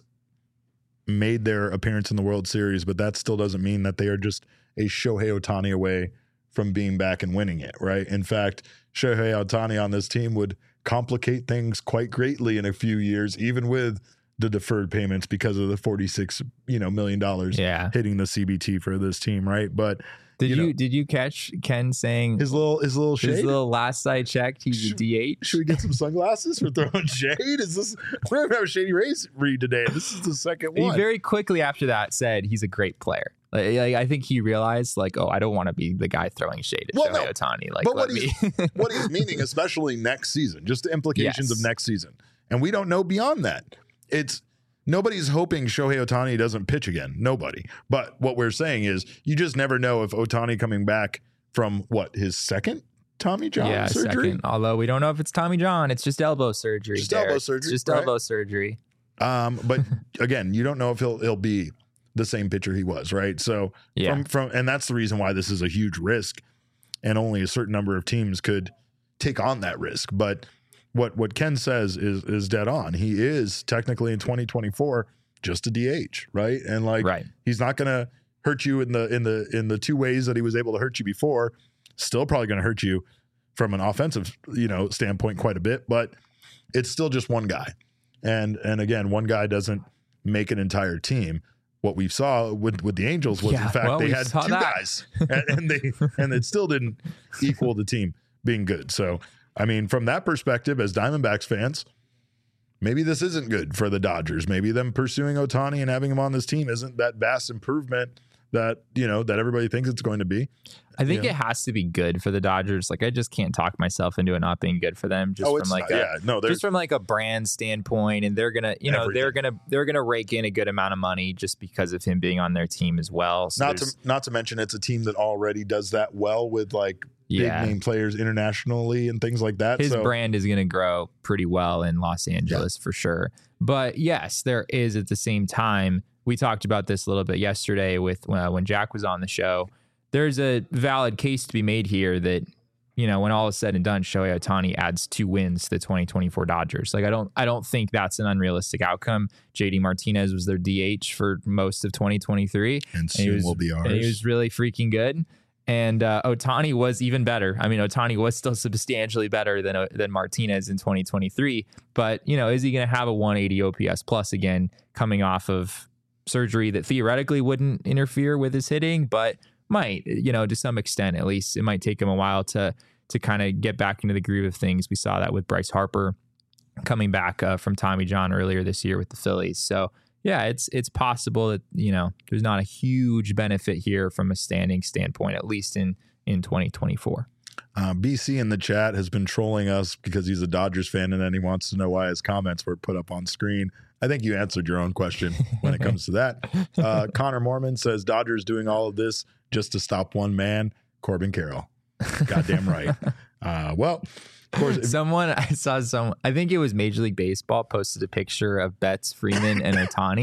made their appearance in the World Series, but that still doesn't mean that they are just a Shohei Ohtani away from being back and winning it, right? In fact, Shohei Ohtani on this team would complicate things quite greatly in a few years, even with the deferred payments because of the forty-six, you know, million dollars Yeah. hitting the C B T for this team, right? But Did you you, know, did you catch Ken saying his little his little shade? his little last I checked, he's a Should- D H? Should we get some sunglasses for throwing shade? Is this we're gonna have a Shady Rays read today? This is the second He one. very quickly after that said he's a great player. Like, like, I think he realized, like, oh, I don't want to be the guy throwing shade at Well, Shohei no, Ohtani. Like, but let what me. he's, what he's meaning, especially next season, just the implications Yes. of next season, and we don't know beyond that. It's nobody's hoping Shohei Ohtani doesn't pitch again. Nobody. But what we're saying is, you just never know if Ohtani coming back from what his second Tommy John yeah, surgery. second. Although we don't know if it's Tommy John. It's just elbow surgery. Just Derek. elbow surgery, It's just right? elbow surgery. Um, but again, you don't know if he'll he'll be the same pitcher he was, right? So Yeah. from from and that's the reason why this is a huge risk, and only a certain number of teams could take on that risk. But what what Ken says is is dead on. He is technically in twenty twenty-four just a D H, right? And like Right. he's not gonna hurt you in the in the in the two ways that he was able to hurt you before. Still probably gonna hurt you from an offensive, you know, standpoint quite a bit, but it's still just one guy. And and again, one guy doesn't make an entire team. What we saw with, with the Angels was Yeah, in fact well, they we had saw two that. guys, and, and they and it still didn't equal the team being good. So I mean, from that perspective, as Diamondbacks fans, maybe this isn't good for the Dodgers. Maybe them pursuing Ohtani and having him on this team isn't that vast improvement that you know that everybody thinks it's going to be. I think Yeah. it has to be good for the Dodgers. Like, I just can't talk myself into it not being good for them. Just oh, from it's like not, a, yeah, no, there's just from like a brand standpoint, and they're gonna, you know, they're Everything. gonna they're gonna rake in a good amount of money just because of him being on their team as well. So not to there's- not to mention it's a team that already does that well with like Yeah. big name players internationally and things like that. his so brand is going to grow pretty well in Los Angeles for sure. But yes, there is at the same time. We talked about this a little bit yesterday with uh, when Jack was on the show. There's a valid case to be made here that, you know, when all is said and done, Shohei Ohtani adds two wins to the twenty twenty-four Dodgers. Like, I don't, I don't think that's an unrealistic outcome. J D Martinez was their D H for most of twenty twenty-three, and and he soon was, will be ours. and he was really freaking good. And uh, Ohtani was even better. I mean, Ohtani was still substantially better than than Martinez in twenty twenty-three. But, you know, is he going to have a one eighty O P S plus again coming off of surgery that theoretically wouldn't interfere with his hitting, but might, you know, to some extent at least. It might take him a while to to kind of get back into the groove of things. We saw that with Bryce Harper coming back uh, from Tommy John earlier this year with the Phillies. So, yeah, it's it's possible that, you know, there's not a huge benefit here from a standing standpoint, at least in, in twenty twenty-four. Uh, B C in the chat has been trolling us because he's a Dodgers fan and then he wants to know why his comments were put up on screen. I think you answered your own question when it comes to that. Uh, Connor Mormon says Dodgers doing all of this just to stop one man, Corbin Carroll. Goddamn right. Uh, well, of course, if- Someone I saw some, I think it was Major League Baseball posted a picture of Betts, Freeman, and Ohtani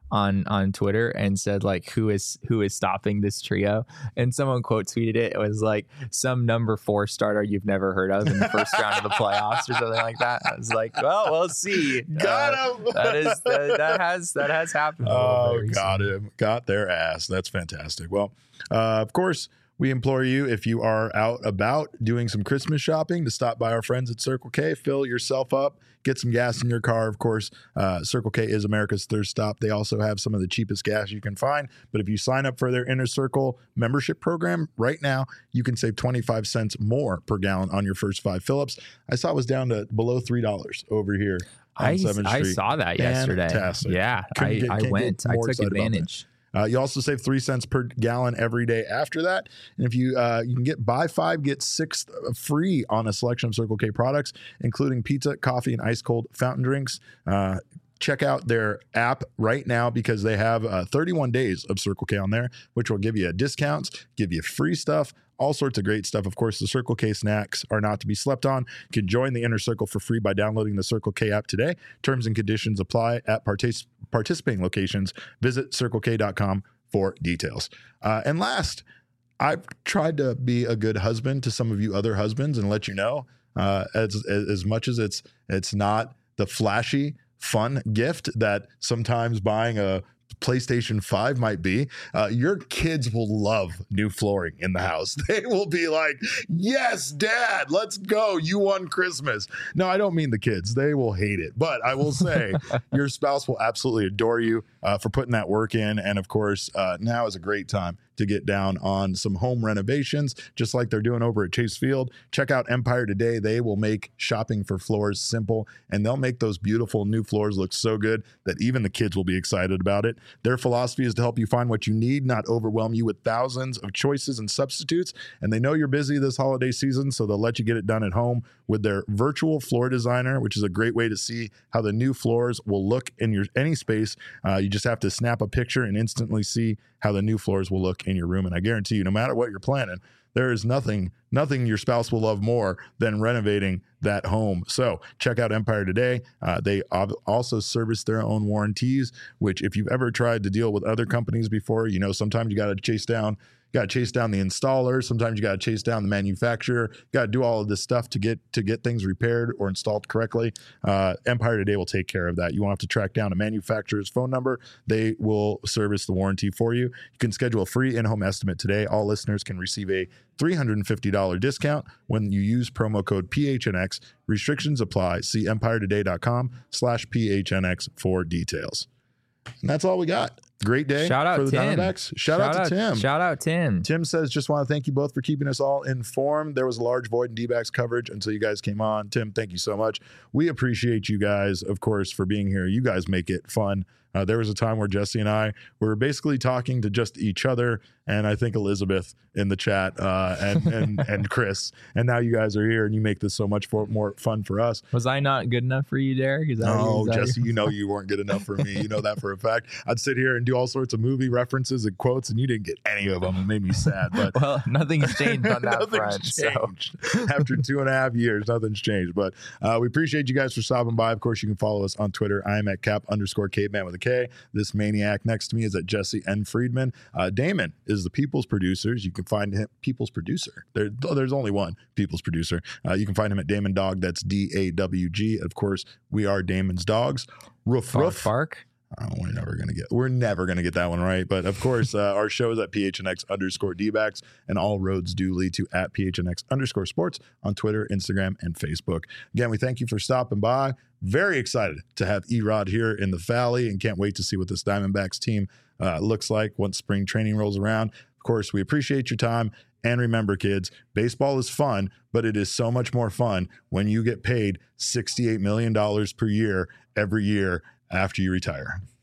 on on Twitter and said like who is who is stopping this trio, and someone quote tweeted it. It was like some number four starter you've never heard of in the first round of the playoffs or something like that. I was like, well, we'll see. Got uh, him. That is that, that has that has happened. a little Oh, bit got recently. him. Got their ass. That's fantastic. Well, uh, of course, we implore you, if you are out about doing some Christmas shopping, to stop by our friends at Circle K, fill yourself up, get some gas in your car. Of course, uh, Circle K is America's thirst stop. They also have some of the cheapest gas you can find. But if you sign up for their Inner Circle membership program right now, you can save twenty-five cents more per gallon on your first five fill-ups. I saw it was down to below three dollars over here on I, seventh I Street. saw that yesterday. Fantastic. Yeah, Couldn't I, get- I can't get went. I more took excited about that. advantage. Uh, you also save three cents per gallon every day after that. And if you uh, you can get buy five, get six free on a selection of Circle K products, including pizza, coffee, and ice cold fountain drinks. Uh, check out their app right now because they have uh, thirty-one days of Circle K on there, which will give you discounts, give you free stuff, all sorts of great stuff. Of course, the Circle K snacks are not to be slept on. You can join the Inner Circle for free by downloading the Circle K app today. Terms and conditions apply at partic- participating locations. Visit circle k dot com for details. Uh, and last, I've tried to be a good husband to some of you other husbands and let you know, uh, as, as as much as it's it's not the flashy, fun gift that sometimes buying a PlayStation five might be, uh, your kids will love new flooring in the house. They will be like, yes, Dad, let's go. You won Christmas. No, I don't mean the kids. They will hate it. But I will say your spouse will absolutely adore you uh, for putting that work in. And of course, uh, now is a great time to get down on some home renovations, just like they're doing over at Chase Field. Check out Empire today. They will make shopping for floors simple, and they'll make those beautiful new floors look so good that even the kids will be excited about it. Their philosophy is to help you find what you need, not overwhelm you with thousands of choices and substitutes. And they know you're busy this holiday season, so they'll let you get it done at home with their virtual floor designer, which is a great way to see how the new floors will look in your any space. Uh, you just have to snap a picture and instantly see how the new floors will look in your room. And I guarantee you, no matter what you're planning, there is nothing, nothing your spouse will love more than renovating that home. So check out Empire today. Uh, they ob- also service their own warranties, which if you've ever tried to deal with other companies before, you know, sometimes you got to chase down You got to chase down the installer. Sometimes you got to chase down the manufacturer. You got to do all of this stuff to get to get things repaired or installed correctly. Uh, Empire Today will take care of that. You won't have to track down a manufacturer's phone number. They will service the warranty for you. You can schedule a free in-home estimate today. All listeners can receive a three hundred fifty dollars discount when you use promo code P H N X. Restrictions apply. See empiretoday.com slash PHNX for details. And that's all we got. Great day Shout out for the Tim. Diamondbacks. Shout, out to Tim. Shout out Tim. Tim says, just want to thank you both for keeping us all informed. There was a large void in D-backs coverage until you guys came on. Tim, thank you so much. We appreciate you guys, of course, for being here. You guys make it fun. Uh, there was a time where Jesse and I were basically talking to just each other, and I think Elizabeth in the chat, uh, and and and Chris. And now you guys are here, and you make this so much for, more fun for us. Was I not good enough for you, Derek? Is that No, is that Jesse, you know you weren't good enough for me. You know that for a fact. I'd sit here and do all sorts of movie references and quotes, and you didn't get any of them. It made me sad. But well, nothing's changed on that nothing's front. So. changed. After two and a half years, nothing's changed. But uh, we appreciate you guys for stopping by. Of course, you can follow us on Twitter. I am at cap underscore caveman with a K. This maniac next to me is at Jesse N. Friedman. Uh, Damon is the People's Producers. You can find him, People's Producer. There, there's only one People's Producer. Uh, you can find him at Damon Dog. That's D A W G. Of course, we are Damon's Dogs. Roof, Bark, roof. bark. Oh, we're never gonna get we're never gonna get that one right. But of course, uh, our show is at P H N X underscore D-backs, and all roads do lead to at P H N X underscore sports on Twitter, Instagram, and Facebook. Again, we thank you for stopping by. Very excited to have E-Rod here in the Valley, and can't wait to see what this Diamondbacks team uh, looks like once spring training rolls around. Of course, we appreciate your time. And remember, kids, baseball is fun, but it is so much more fun when you get paid sixty-eight million dollars per year every year after you retire.